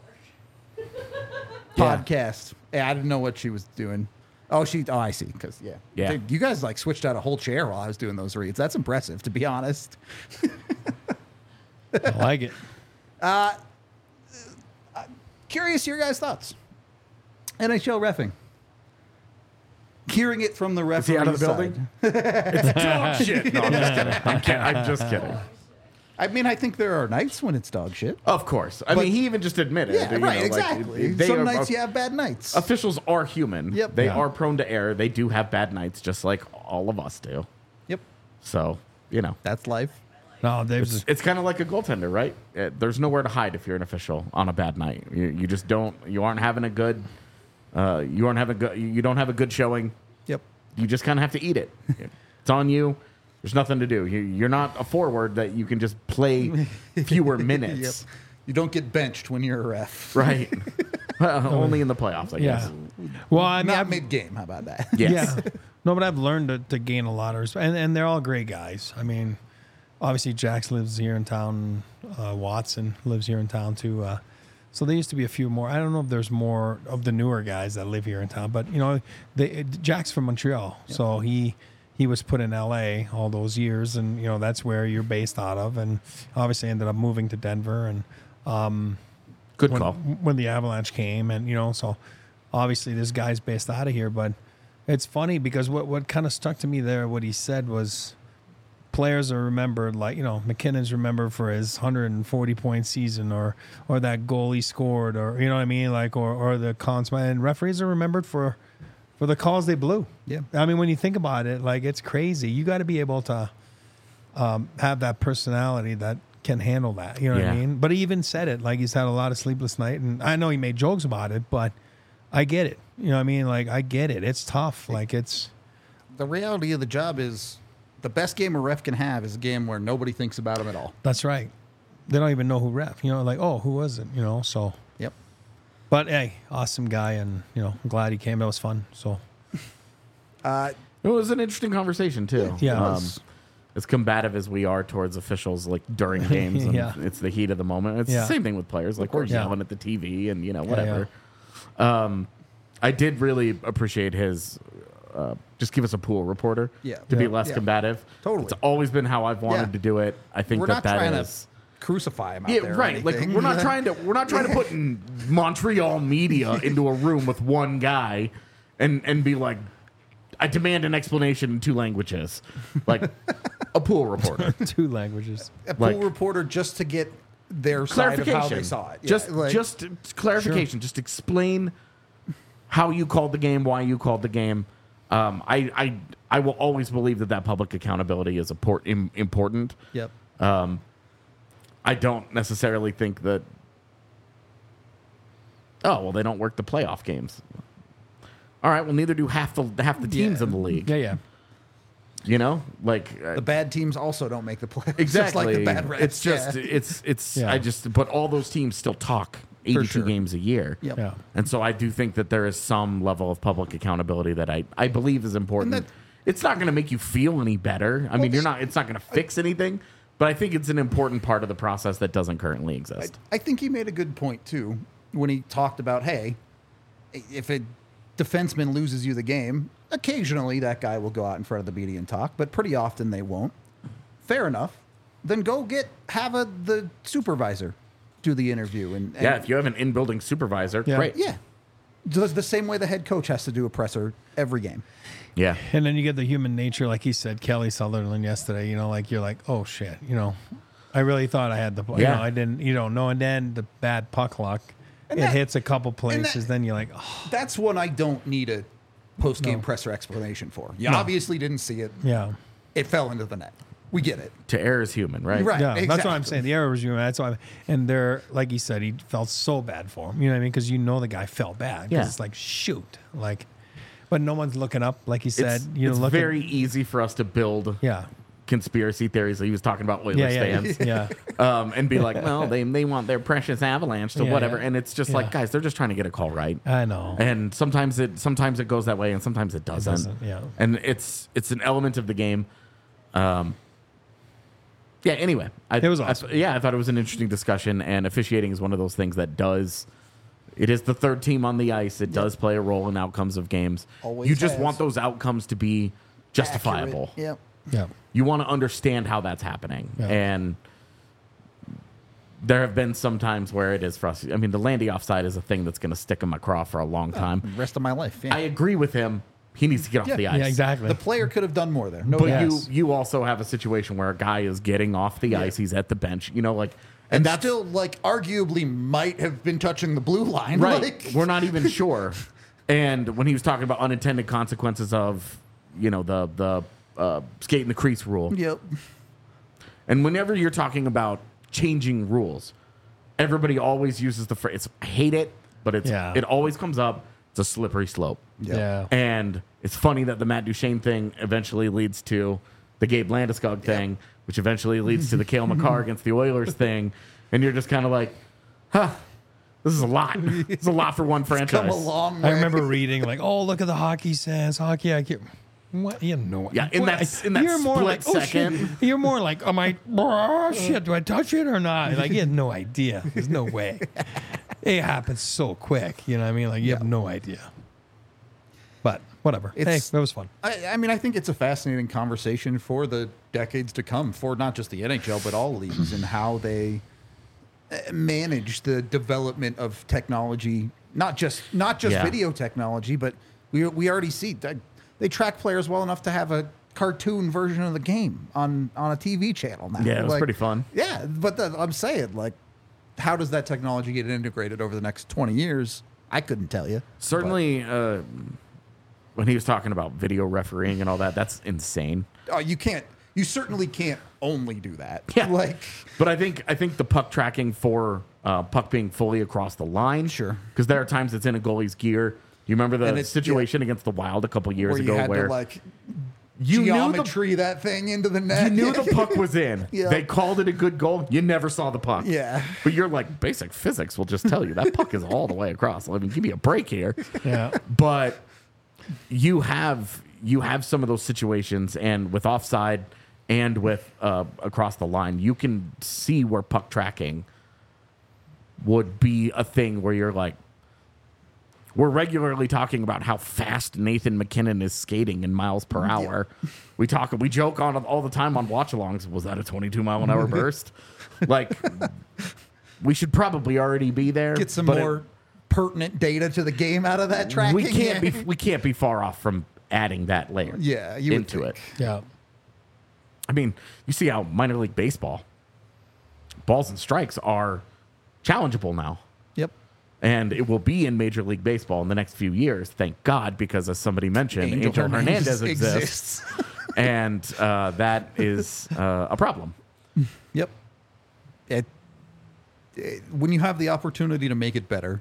podcast. Yeah, I didn't know what she was doing. Oh, she. Oh, I see. Because yeah, Yeah. Dude, you guys like switched out a whole chair while I was doing those reads. That's impressive, to be honest. I like it. Curious your guys' thoughts. N H L reffing. Hearing it from the Is he referee out of the building? It's dog shit. No, I'm just kidding. I'm, kidding. I'm just kidding. I mean, I think there are nights when it's dog shit. Of course. I mean, he even just admitted. Yeah, you right, know, like, exactly. they Some are- nights you have bad nights. Officials are human. Yep. They Yeah. are prone to error. They do have bad nights, just like all of us do. Yep. So, you know. That's life. No, Dave's. It's kind of like a goaltender, right? Uh, There's nowhere to hide if you're an official on a bad night. You, you just don't. You aren't having a good. Uh, you aren't having. Good, you don't have a good showing. Yep. You just kind of have to eat it. It's on you. There's nothing to do. You, you're not a forward that you can just play fewer minutes. Yep. You don't get benched when you're a ref. Right. Well, only in the playoffs, I guess. yeah. Well, I mean, Not I've- mid game. How about that? Yes. Yeah. No, but I've learned to, to gain a lot of respect. And, and they're all great guys. I mean, obviously, Jax lives here in town. Uh, Watson lives here in town, too. Uh, so there used to be a few more. I don't know if there's more of the newer guys that live here in town. But, you know, they, Jack's from Montreal. So he he was put in L A all those years. And, you know, that's where you're based out of. And obviously ended up moving to Denver. And um, Good when, call. when the Avalanche came, and you know, so obviously this guy's based out of here. But it's funny because what what kind of stuck to me there, what he said was, players are remembered like, you know, McKinnon's remembered for his one hundred forty point season, or or that goal he scored, or you know what I mean, like or or the cons. And referees are remembered for for the calls they blew. Yeah. I mean, when you think about it, like it's crazy. You got to be able to um, have that personality that can handle that. You know what I Yeah. mean? But he even said it, like he's had a lot of sleepless night, and I know he made jokes about it, but I get it. You know what I mean? Like I get it. It's tough. Like it's The reality of the job is the best game a ref can have is a game where nobody thinks about him at all. that's right. They don't even know who ref. You know, like oh, who was it? You know, so. Yep. But hey, awesome guy, and you know, I'm glad he came. That was fun. So Uh, It was an interesting conversation too. Yeah. It Um, was. as combative as we are towards officials, like during games, and Yeah. it's the heat of the moment. It's Yeah. the same thing with players. Like we're Yeah. yelling at the T V and you know Yeah, whatever. Um, I did really appreciate his. Uh, just give us a pool reporter. Yeah. To be Yeah. less Yeah. combative. Totally. It's always been how I've wanted Yeah. to do it. I think we're that not that trying is. to crucify him out Yeah, there. or right. Like anything. we're not trying to we're not trying to put in Montreal media into a room with one guy and and be like, I demand an explanation in two languages, like a pool reporter. two languages. a pool like- reporter just to get their side of Clarification. how they saw it. Yeah, Just like- just clarification. Just explain how you called the game, why you called the game. Um, I I I will always believe that that public accountability is import, im, important. Yep. I don't necessarily think that. Oh well, they don't work the playoff games. All right, well, neither do half the half the teams Yeah. in the league. Yeah, yeah. You know, like uh, The bad teams also don't make the playoffs. exactly. Just like the bad refs. It's just yeah. it's it's. Yeah. I just but all those teams still talk eighty-two sure. games a year. Yep. Yeah. And so I do think that there is some level of public accountability that I, I believe is important. And that- it's not going to make you feel any better. I mean, you're not. It's not going to fix anything. But I think it's an important part of the process that doesn't currently exist. I think he made a good point too when he talked about, hey, if a defenseman loses you the game, occasionally that guy will go out in front of the media and talk, but pretty often they won't. Fair enough. Then go get have a the supervisor do the interview and, and yeah, if you have an in-building supervisor, Yeah. great. yeah. Does the same way the head coach has to do a presser every game. Yeah. And then you get the human nature, like he said, Kelly Sutherland yesterday. You know, like you're like, oh shit, you know, I really thought I had the, you Yeah. know, I didn't, you don't know. And then the bad puck luck, And it that- hits a couple that- places. then you're like, oh, That's one I don't need a post game No. presser explanation for. You No. obviously didn't see it. yeah, It fell into the net. We get it. To err is human, right? Right. yeah. That's what I'm exactly. saying. The error was you. That's why. I'm, and they're like he said, he felt so bad for him. You know what I mean? Because you know the guy felt bad. 'Cause Yeah. it's like shoot, like, but no one's looking up. Like he said, It's, you know, it's look very easy for us to build yeah, conspiracy theories. He was talking about Oilers yeah, yeah, fans. yeah. Um, and be like, well, they they want their precious Avalanche to Yeah, whatever, yeah. and it's just Yeah. like, guys, they're just trying to get a call right. I know. And sometimes it sometimes it goes that way, and sometimes it doesn't. doesn't, yeah. And it's it's an element of the game. Um, yeah. Anyway, I, It was I- awesome. yeah, I thought it was an interesting discussion, and officiating is one of those things that does. It is the third team on the ice. It does play a role in outcomes of games. Always you just has. want those outcomes to be justifiable. Accurate. Yep. Yeah. You want to understand how that's happening, Yeah. and there have been some times where it is frustrating. I mean, the Landy offside is a thing that's going to stick in my craw for a long time. The rest of my life. Yeah. I agree with him. He needs to get off Yeah. the ice. Yeah, exactly. the player could have done more there. No But doubt. Yes. you you also have a situation where a guy is getting off the ice. He's at the bench. You know, like, and, and that's still, like, arguably might have been touching the blue line. right. Like, We're not even sure. And when he was talking about unintended consequences of, you know, the the uh, skate in the crease rule, Yep. and whenever you're talking about changing rules, everybody always uses the phrase. I hate it, but it's Yeah. it always comes up. It's a slippery slope. Yep. Yeah. And it's funny that the Matt Duchene thing eventually leads to the Gabe Landeskog thing, which eventually leads to the Cale Makar against the Oilers thing. And you're just kind of like, huh, this is a lot. It's a lot for one franchise. Come a long way. I remember reading like, "Oh, look at the hockey sense, hockey I get." What you know? Yeah, in what- that- in that you're more split like, oh, shit. second. You're more like, "Am I? Oh, shit, do I touch it or not?" Like you have no idea. There's no way. It happens so quick. You know what I mean? Like you have no idea. But whatever. It's- hey, that was fun. I, I mean, I think it's a fascinating conversation for the decades to come, for not just the N H L, but all leagues, and how they uh, manage the development of technology, not just not just Yeah. video technology, but we we already see that they track players well enough to have a cartoon version of the game on on a T V channel now. Yeah, it was Like, pretty fun. Yeah, but the, I'm saying, like, how does that technology get integrated over the next twenty years? I couldn't tell you. Certainly, uh, when he was talking about video refereeing and all that, that's insane. Oh, you can't. You certainly can't only do that. Yeah. Like, But I think I think the puck tracking for uh, puck being fully across the line, Sure. because there are times it's in a goalie's gear. You remember And the it's- situation against the Wild a couple years where you ago, had where to like you knew the geometry that thing into the net. you knew the puck was in. Yeah. They called it a good goal. You never saw the puck. Yeah. But you're like, basic physics will just tell you that puck is all the way across. I mean, give me a break here. Yeah. But you have you have some of those situations, and with offside and with uh, across the line, you can see where puck tracking would be a thing where you're like, we're regularly talking about how fast Nathan McKinnon is skating in miles per hour. We talk, we joke on it all the time on watch-alongs. Was that a twenty-two mile an hour burst? Like, we should probably already be there. Get some but it- more pertinent data to the game out of that tracking. we can't be we can't be far off from adding that layer. Yeah, you would into think. it. Yeah. I mean, you see how minor league baseball balls and strikes are challengeable now. Yep. And it will be in Major League Baseball in the next few years, thank God, because as somebody mentioned, Angel, Angel Hernandez, Hernandez exists, and uh, that is uh, a problem. Yep. It, it, when you have the opportunity to make it better,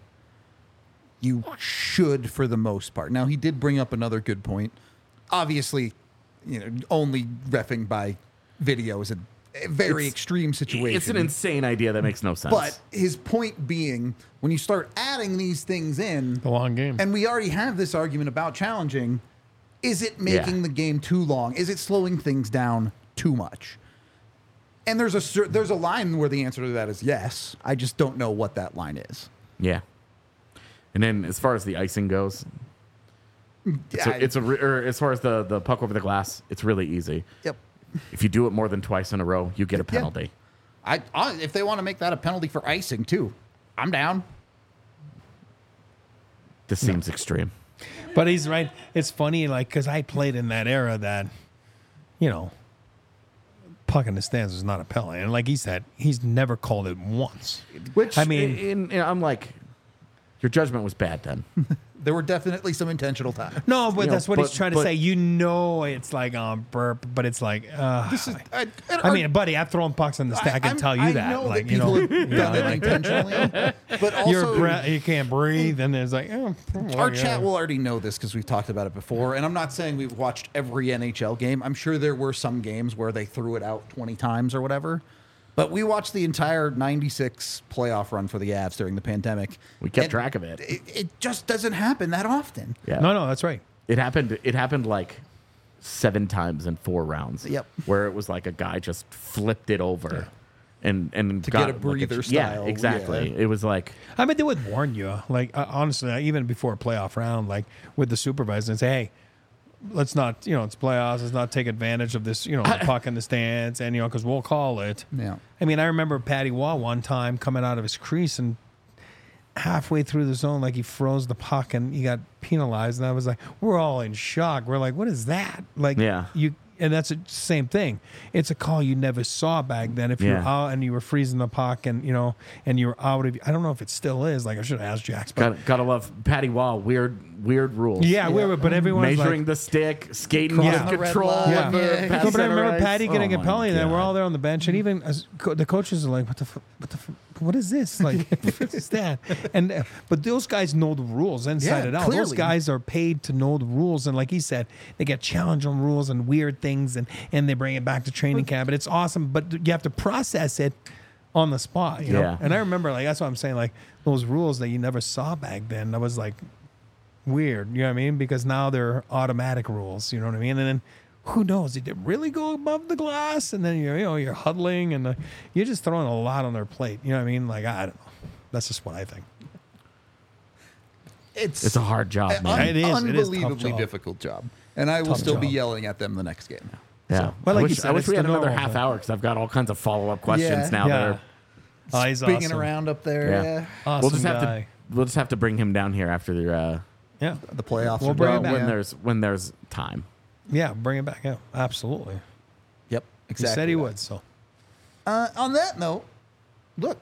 you should, for the most part. Now, he did bring up another good point. Obviously, you know, only reffing by video is a, a very It's- extreme situation. It's an insane idea that makes no sense. But his point being, when you start adding these things in, The long game. and we already have this argument about challenging, is it making Yeah. the game too long? Is it slowing things down too much? And there's a cer- there's a line where the answer to that is yes. I just don't know what that line is. yeah. And then as far as the icing goes, it's I- a, it's a re- or as far as the, the puck over the glass, it's really easy. Yep. If you do it more than twice in a row, you get a Yeah. penalty. I, I if they want to make that a penalty for icing too, I'm down. This seems extreme. But he's right. It's funny, like, because I played in that era that, you know, puck in the stands is not a penalty. And like he said, he's never called it once. Which I mean- in, in, I'm like, your judgment was bad then. There were definitely some intentional times. No, but You know, that's what he's but- trying to but- say. You know, it's like um burp, but it's like, uh, This is, I, I mean, buddy, I've thrown pucks on the stack. I, can I'm- tell you I that. know like, that you know, people have you done know, it like, intentionally, but also your breath, you can't breathe, and there's like, oh, Our yeah. chat will already know this because we've talked about it before. And I'm not saying we've watched every N H L game. I'm sure there were some games where they threw it out twenty times or whatever. But we watched the entire ninety-six playoff run for the Avs during the pandemic. We kept And track of it. It, it just doesn't happen that often. Yeah. No, no, that's right. It happened. It happened like seven times in four rounds. Yep. Where it was like a guy just flipped it over, and and To got get a like breather yeah, style, exactly. yeah. It was like I mean, they would warn you. Like, uh, honestly, uh, even before a playoff round, like with the supervisor and say, hey, let's not, you know, it's playoffs. Let's not take advantage of this, you know, the puck in the stands, and you know, because we'll call it. Yeah. I mean, I remember Patty Waugh one time coming out of his crease and halfway through the zone, like he froze the puck and he got penalized. And I was like, we're all in shock. We're like, what is that? Like, Yeah. you. And that's the same thing. It's a call you never saw back then. If you're Yeah. out and you were freezing the puck, and you know, and you were out of, I don't know if it still is. Like I should have asked Jax, but Got, gotta love Patty Wall. Weird, weird rules. yeah, we were. But everyone was Measuring like, the stick, skating Crossing out the of red control. line. Yeah. with the Yeah. pass no, but I remember center ice. Patty getting Oh a my penalty, and then we're God. all there on the bench, and even as co- the coaches are like, "What the, f- what the, f- what is this? Like, what is that?" And uh, but those guys know the rules inside Yeah, and out. Those clearly. guys are paid to know the rules, and like he said, they get challenged on rules and weird things, and and they bring it back to training camp, and it's awesome. But you have to process it on the spot, you know. Yeah. And I remember, like, that's what I'm saying, like those rules that you never saw back then. That was like weird, you know what I mean? Because now they're automatic rules, you know what I mean? And then who knows? Did it really go above the glass? And then you're, you know, you're huddling and uh, you're just throwing a lot on their plate. You know what I mean? Like, I don't know. That's just what I think. It's It's a hard job, an man. It is. It is a tough unbelievably job. difficult job. And I will Tough still be job. yelling at them the next game. Yeah. well, I like you wish, said, I wish it's we had the another normal half thing. hour because I've got all kinds of follow up questions Yeah. now. Yeah. That are, Oh, he's Spinning awesome. around up there. Yeah. Yeah. Awesome we'll just have guy. to we'll just have to bring him down here after the uh, Yeah. The playoffs We'll are bring well, him done. back. when Yeah. there's when there's time. Yeah. Bring it back. Yeah. Absolutely. Yep. Exactly. He said he that. would. So Uh, on that note, look,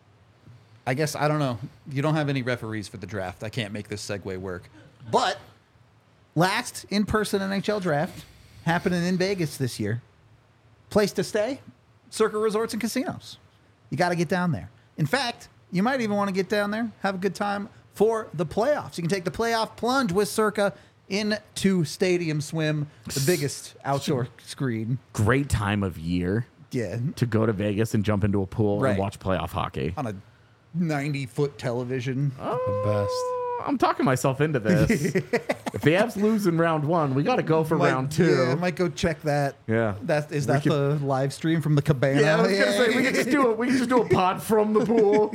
I guess I don't know. You don't have any referees for the draft. I can't make this segue work. But last in-person N H L draft happening in Vegas this year. Place to stay? Circa Resorts and Casinos. You got to get down there. In fact, you might even want to get down there, have a good time for the playoffs. You can take the playoff plunge with Circa into Stadium Swim, the biggest outdoor screen. Great time of year Yeah, to go to Vegas and jump into a pool Right. and watch playoff hockey. on a ninety-foot television. the best. I'm talking myself into this. If the Avs lose in round one, we got to go for Might- round two. Yeah, I might go check that. Yeah. That is We that could- the live stream from the cabana? Yeah, I was gonna say we can just do it. We can just do a pod from the pool.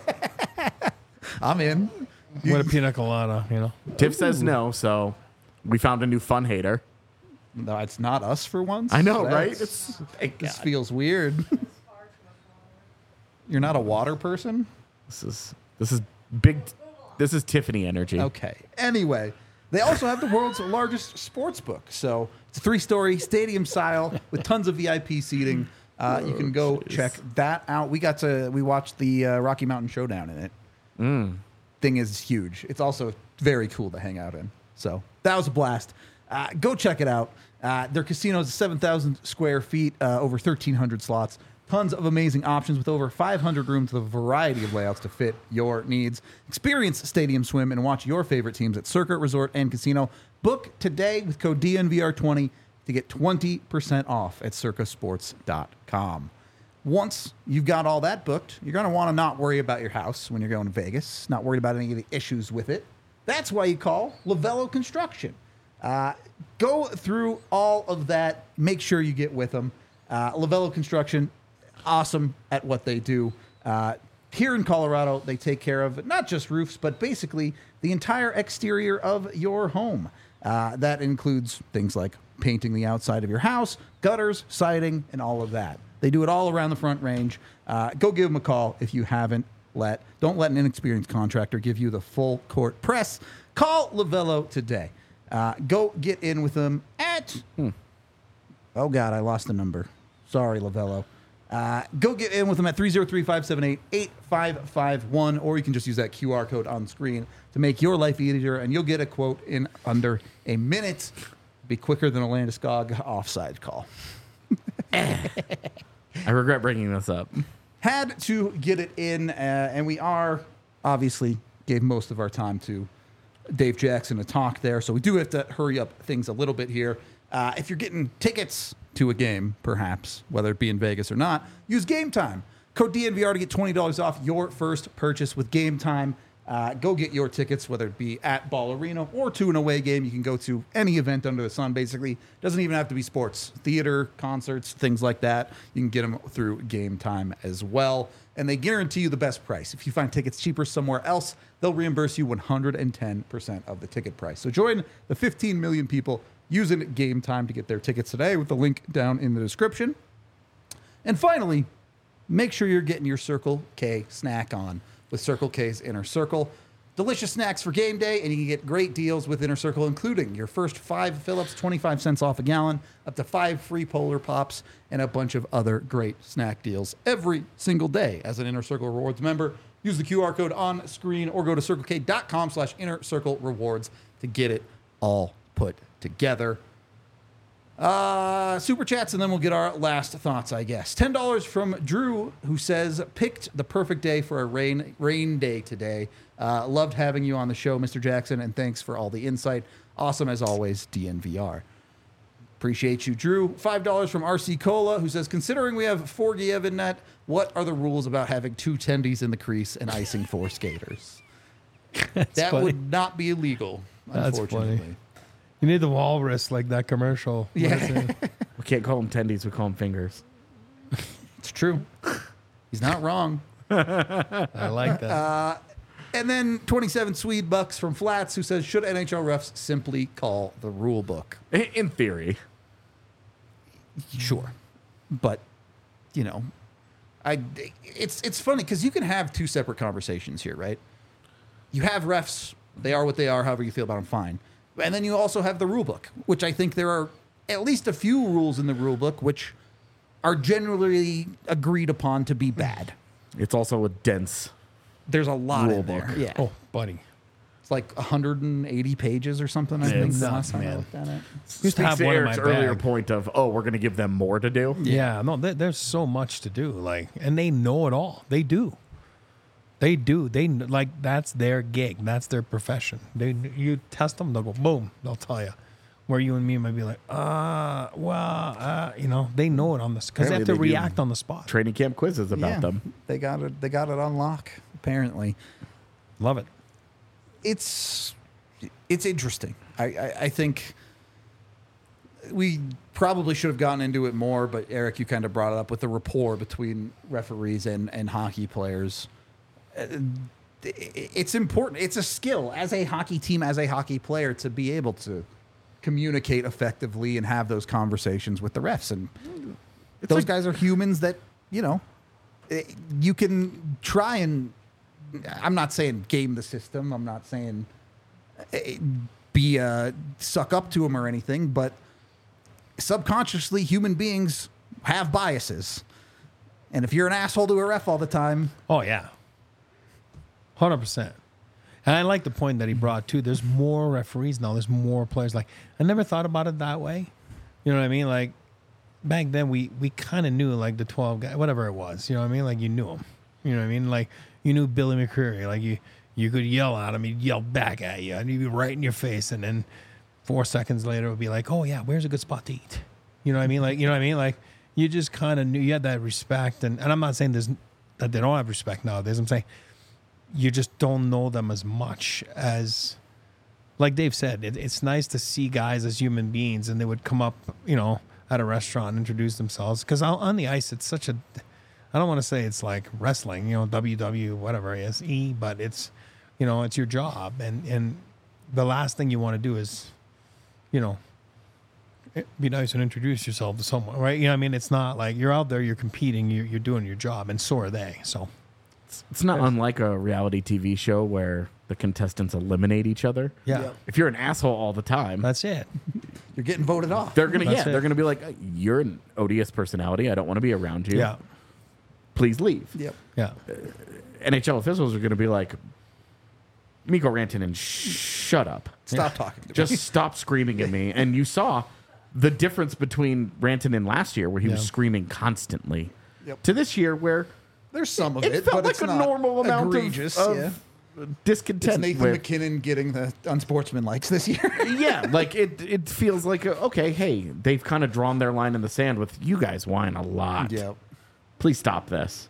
I'm in. What a pina colada, you know. Tiff says no, so we found a new fun hater. No, it's not us for once. I know, That's- right? It's thank This God. feels weird. You're not a water person? This is this is big. This is Tiffany energy. Okay. Anyway, they also have the world's largest sports book. So it's a three-story stadium style with tons of V I P seating. Uh, you can go check that out. We got to we watched the uh, Rocky Mountain Showdown in it. Mm. Thing is huge. It's also very cool to hang out in. So that was a blast. Uh, go check it out. Uh, their casino is seven thousand square feet, uh, over thirteen hundred slots. Tons of amazing options with over five hundred rooms with a variety of layouts to fit your needs. Experience Stadium Swim and watch your favorite teams at Circuit Resort and Casino. Book today with code D N V R twenty to get twenty percent off at circa sports dot com. Once you've got all that booked, you're going to want to not worry about your house when you're going to Vegas, not worried about any of the issues with it. That's why you call Lavello Construction. Uh, go through all of that. Make sure you get with them. Uh, Lavello Construction, awesome at what they do. Uh, here in Colorado, they take care of not just roofs, but basically the entire exterior of your home. Uh, that includes things like painting the outside of your house, gutters, siding, and all of that. They do it all around the Front Range. Uh, go give them a call if you haven't let. Don't let an inexperienced contractor give you the full court press. Call Lavello today. Uh, go get in with them at... Oh, God, I lost the number. Sorry, Lavello. Uh, go get in with them at three oh three, five seven eight, eight five five one, or you can just use that Q R code on screen to make your life easier, and you'll get a quote in under a minute. Be quicker than a Landeskog offside call. I regret bringing this up. Had to get it in, uh, and we are obviously gave most of our time to Dave Jackson to talk there, so we do have to hurry up things a little bit here. Uh, if you're getting tickets to a game, perhaps, whether it be in Vegas or not, use Game Time. Code D N V R to get twenty dollars off your first purchase with Game Time. Uh, go get your tickets, whether it be at Ball Arena or to an away game. You can go to any event under the sun, basically. Doesn't even have to be sports. Theater, concerts, things like that. You can get them through Game Time as well. And they guarantee you the best price. If you find tickets cheaper somewhere else, they'll reimburse you one hundred ten percent of the ticket price. So join the fifteen million people using Game Time to get their tickets today with the link down in the description. And finally, make sure you're getting your Circle K snack on with Circle K's Inner Circle. Delicious snacks for game day, and you can get great deals with Inner Circle, including your first five fill-ups, twenty-five cents off a gallon, up to five free Polar Pops, and a bunch of other great snack deals every single day. As an Inner Circle Rewards member, use the Q R code on screen or go to circlek.com slash Inner Circle Rewards to get it all put together. Uh, super chats, and then we'll get our last thoughts, I guess. ten dollars from Drew, who says, picked the perfect day for a rain rain day today. Uh, loved having you on the show, Mister Jackson, and thanks for all the insight. Awesome as always, D N V R. Appreciate you, Drew. five dollars from R C Cola, who says, considering we have Forgiev in net, what are the rules about having two tendies in the crease and icing four skaters? That funny. would not be illegal, That's unfortunately. funny. You need the walrus like that commercial. What Yeah. is it? We can't call them tendies. We call them fingers. It's true. He's not wrong. I like that. And then twenty-seven Swede bucks from Flats, who says, should N H L refs simply call the rule book? I- In theory. Sure. But, you know, I it's it's funny because you can have two separate conversations here, right? You have refs, they are what they are, however you feel about them, fine. And then you also have the rule book, which I think there are at least a few rules in the rule book which are generally agreed upon to be bad. It's also a dense. There's a lot Rule in there. book. Yeah. Oh, buddy. It's like one hundred eighty pages or something, I think. It's the nuts, last time I man. looked at it. Used to have Speaks to one in Eric's my earlier bag. point of, oh, we're going to give them more to do. Yeah, no, there, there's so much to do. Like, and they know it all. They do. They do. They kn- like that's their gig. That's their profession. They you test them, they'll go boom. They'll tell you. Where you and me might be like, uh, well, uh, you know, they know it on the because they have to Apparently they do. react on the spot. Training camp quizzes about Yeah, them. They got it. They got it on lock. Apparently, Love it. it's it's interesting. I, I, I think we probably should have gotten into it more, but Eric, you kind of brought it up with the rapport between referees and, and hockey players. Uh, It's important. It's a skill as a hockey team, as a hockey player, to be able to communicate effectively and have those conversations with the refs. And those like- guys are humans that, you know, eh, you can try and, I'm not saying game the system. I'm not saying eh, be uh, suck up to them or anything, but subconsciously human beings have biases. And if you're an asshole to a ref all the time, Oh yeah, one hundred percent. And I like the point that he brought too. There's more referees now. There's more players. Like I never thought about it that way. You know what I mean? Like back then, we we kind of knew like the twelve guy, whatever it was. You know what I mean? Like you knew him. You know what I mean? Like you knew Billy McCreary. Like you you could yell at him, he'd yell back at you, and he'd be right in your face. And then four seconds later, it would be like, oh yeah, where's a good spot to eat? You know what I mean? Like you know what I mean? Like you just kind of knew you had that respect. And and I'm not saying there's that they don't have respect nowadays. I'm saying you just don't know them as much as, like Dave said, it, it's nice to see guys as human beings, and they would come up, you know, at a restaurant and introduce themselves. Because on the ice, it's such a, I don't want to say it's like wrestling, you know, W W, whatever it is, E, but it's, you know, it's your job. And, and the last thing you want to do is, you know, be nice and introduce yourself to someone, right? You know what I mean? It's not like you're out there, you're competing, you're, you're doing your job, and so are they. So. It's not unlike a reality T V show where the contestants eliminate each other. Yeah, Yep. If you're an asshole all the time, that's it. you're getting voted off. they're gonna That's yeah, it. they're gonna be like, you're an odious personality. I don't want to be around you. Yeah, Please leave. Yep. yeah, N H L officials are gonna be like, Mikko Rantanen, shut up. Stop talking to me. Just stop screaming at me. And you saw the difference between Rantanen last year, where he was Yeah. screaming constantly, Yep. to this year where There's some of it, it, felt but like it's a not normal amount of- egregious. of, yeah. discontent. It's Nathan where- McKinnon getting the unsportsmanlikes this year. yeah, like it. It feels like a, okay. Hey, they've kind of drawn their line in the sand with you guys whine a lot. Yep. Please stop this.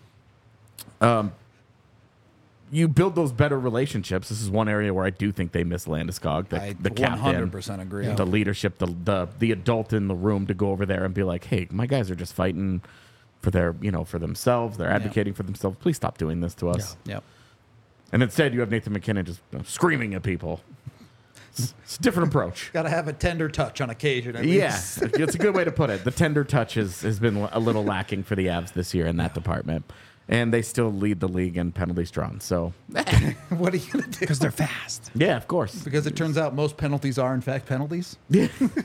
um, you build those better relationships. This is one area where I do think they miss Landeskog, the, I the captain, one hundred percent agree. the leadership, the, the the adult in the room to go over there and be like, hey, my guys are just fighting for their, you know, for themselves. They're advocating for themselves. Please stop doing this to us. Yep. And instead, you have Nathan McKinnon just you know, screaming at people. It's, it's a different approach. Got to have a tender touch on occasion. At Yeah, least. it's a good way to put it. The tender touch is, has been a little lacking for the Avs this year in that department. And they still lead the league in penalties drawn. So, What are you gonna do? Because they're fast. yeah, of course. Because it turns out most penalties are in fact penalties. Yeah.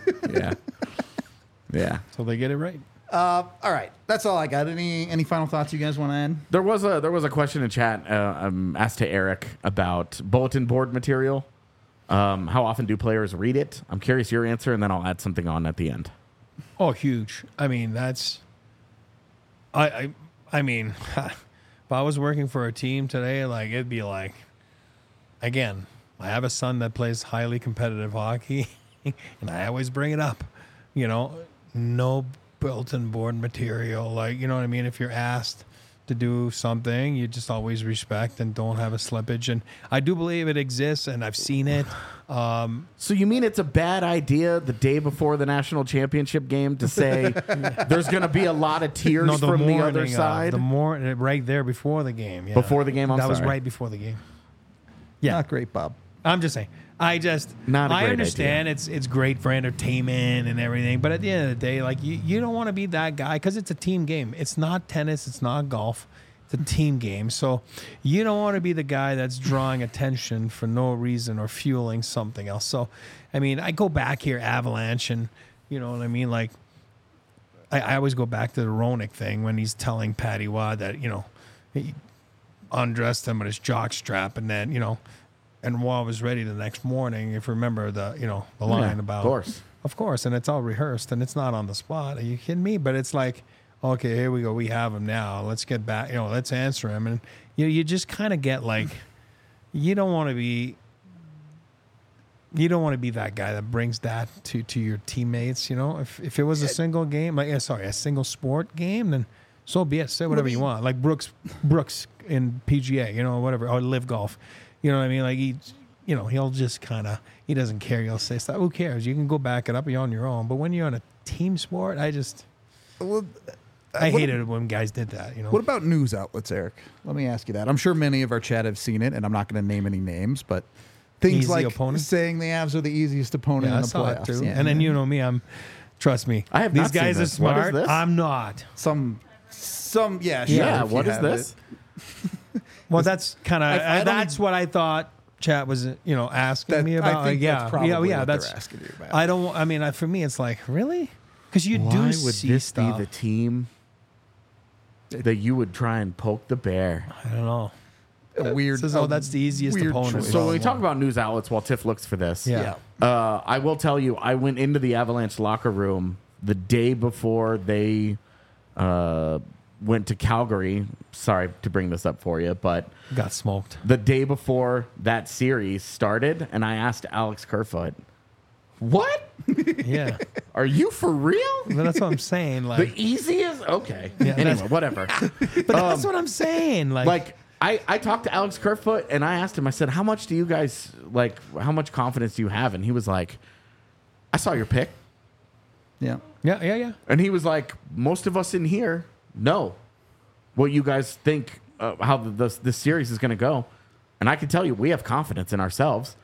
Yeah. So they get it right. Uh, all right, that's all I got. Any any final thoughts you guys want to add? There was a there was a question in chat uh, um, asked to Eric about bulletin board material. Um, how often do players read it? I'm curious your answer, and then I'll add something on at the end. Oh, huge. I mean, that's. I I I mean, if I was working for a team today, like it'd be like, again, I have a son that plays highly competitive hockey, and I always bring it up. You know, no bulletin board material. Like, you know what I mean? If you're asked to do something, you just always respect and don't have a slippage. And I do believe it exists, and I've seen it. Um, So you mean it's a bad idea the day before the national championship game to say there's going to be a lot of tears no, the from morning, the other uh, side the morning, right there before the game. Yeah. before the game? I'm that was sorry. right before the game. Yeah, Not great, Bob. I'm just saying. I just Not a I great understand it's it's great for entertainment and everything, but at the end of the day, like you, you don't want to be that guy because it's a team game. It's not tennis. It's not golf. It's a team game. So you don't want to be the guy that's drawing attention for no reason or fueling something else. So, I mean, I go back here, Avalanche, and you know what I mean? Like, I, I always go back to the Ronick thing when he's telling Patty Waugh that, you know, he undressed him with his jock strap and then, you know, and Waugh was ready the next morning. If you remember the, you know, the line Yeah, about. of course. Of course. And it's all rehearsed and it's not on the spot. Are you kidding me? But it's like, okay, here we go. We have him now. Let's get back. You know, let's answer him. And you you just kind of get like, you don't want to be, you don't want to be that guy that brings that to, to your teammates. You know, if if it was a single game, like yeah, sorry, a single sport game, then so be it. Say whatever you want. Like Brooks Brooks in P G A, you know, whatever, or Live Golf. You know what I mean? Like he, you know, he'll just kind of he doesn't care. He'll say stuff. Who cares? You can go back it up. You're on your own. But when you're on a team sport, I just. Well, I what- hated it when guys did that, you know. What about news outlets, Eric? Let me ask you that. I'm sure many of our chat have seen it, and I'm not going to name any names, but things Easy like opponent? saying the Avs are the easiest opponent Yeah, I in the saw playoffs. it too. Yeah. And then you know me, I'm trust me. I have These not seen guys are this. What is smart. this? I'm not. some, some, yeah, sure, Yeah, if you what is have this? it. Well, that's kind of I- I don't that's even- what I thought chat was, you know, asking That- me I about. think Like, yeah, that's probably yeah, yeah, what they're that's asking you about. I don't I mean, I, for me it's like, really? Cuz you Why do would see this stuff. be the team that you would try and poke the bear? I don't know. A weird. Says, oh, a that's the easiest weird opponent. choice. So when we talk about news outlets while Tiff looks for this, Yeah. yeah. Uh, I will tell you, I went into the Avalanche locker room the day before they uh, went to Calgary. Sorry to bring this up for you, but Got smoked. the day before that series started, and I asked Alex Kerfoot, "What? Yeah. Are you for real? But that's what I'm saying. The Like, easiest? Okay. Yeah, anyway, that's- whatever. but that's what I'm saying. Like, Like I, I talked to Alex Kerfoot and I asked him, I said, how much do you guys like how much confidence do you have? And he was like, I saw your pick. Yeah. yeah, yeah, yeah. And he was like, most of us in here know what you guys think uh, how the, the, this series is going to go. And I can tell you, we have confidence in ourselves.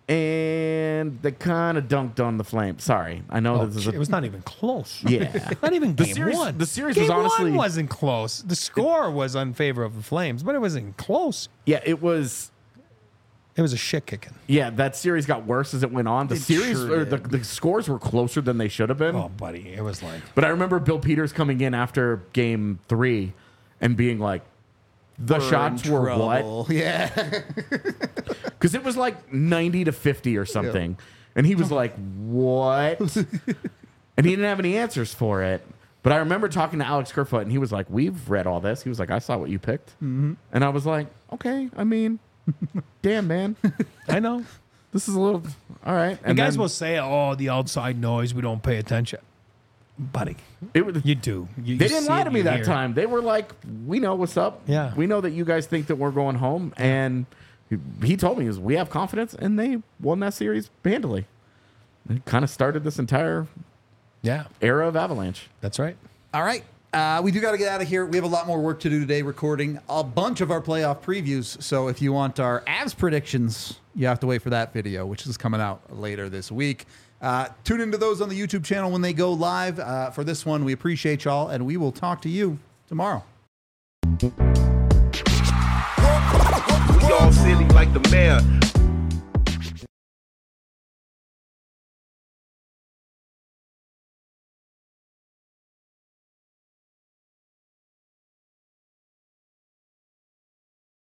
And they kind of dunked on the Flames. Sorry. I know Oh, this is it a, was not even close. yeah. Not even The game series- one. the series game was honestly- one wasn't close. The score was in favor of the Flames, but it wasn't close. Yeah, it was It was a shit kicking. yeah, that series got worse as it went on. The It series sure or the, did. the scores were closer than they should have been. Oh, buddy, it was like But I remember Bill Peters coming in after game three and being like, the We're shots in were trouble. Yeah. what? Because it was like ninety to fifty or something. And he was like, what? And he didn't have any answers for it. But I remember talking to Alex Kerfoot and he was like, we've read all this. He was like, I saw what you picked. Mm-hmm. And I was like, okay, I mean, damn, man. I know. This is a little, all right. And guys will say, "Oh, the outside noise. We don't pay attention." Buddy, it, was- you do. You, They you didn't see lie it, to me you that hear it. time. They were like, "We know what's up. Yeah. we know that you guys think that we're going home." And he, he told me, "Is we have confidence," and they won that series handily. It kind of started this entire Yeah, era of Avalanche. that's right. All right. Uh, we do got to get out of here. We have a lot more work to do today, recording a bunch of our playoff previews. So if you want our Avs predictions, you have to wait for that video, which is coming out later this week. Uh, tune into those on the YouTube channel when they go live. Uh, for this one, we appreciate y'all, and we will talk to you tomorrow. We all silly like the mayor.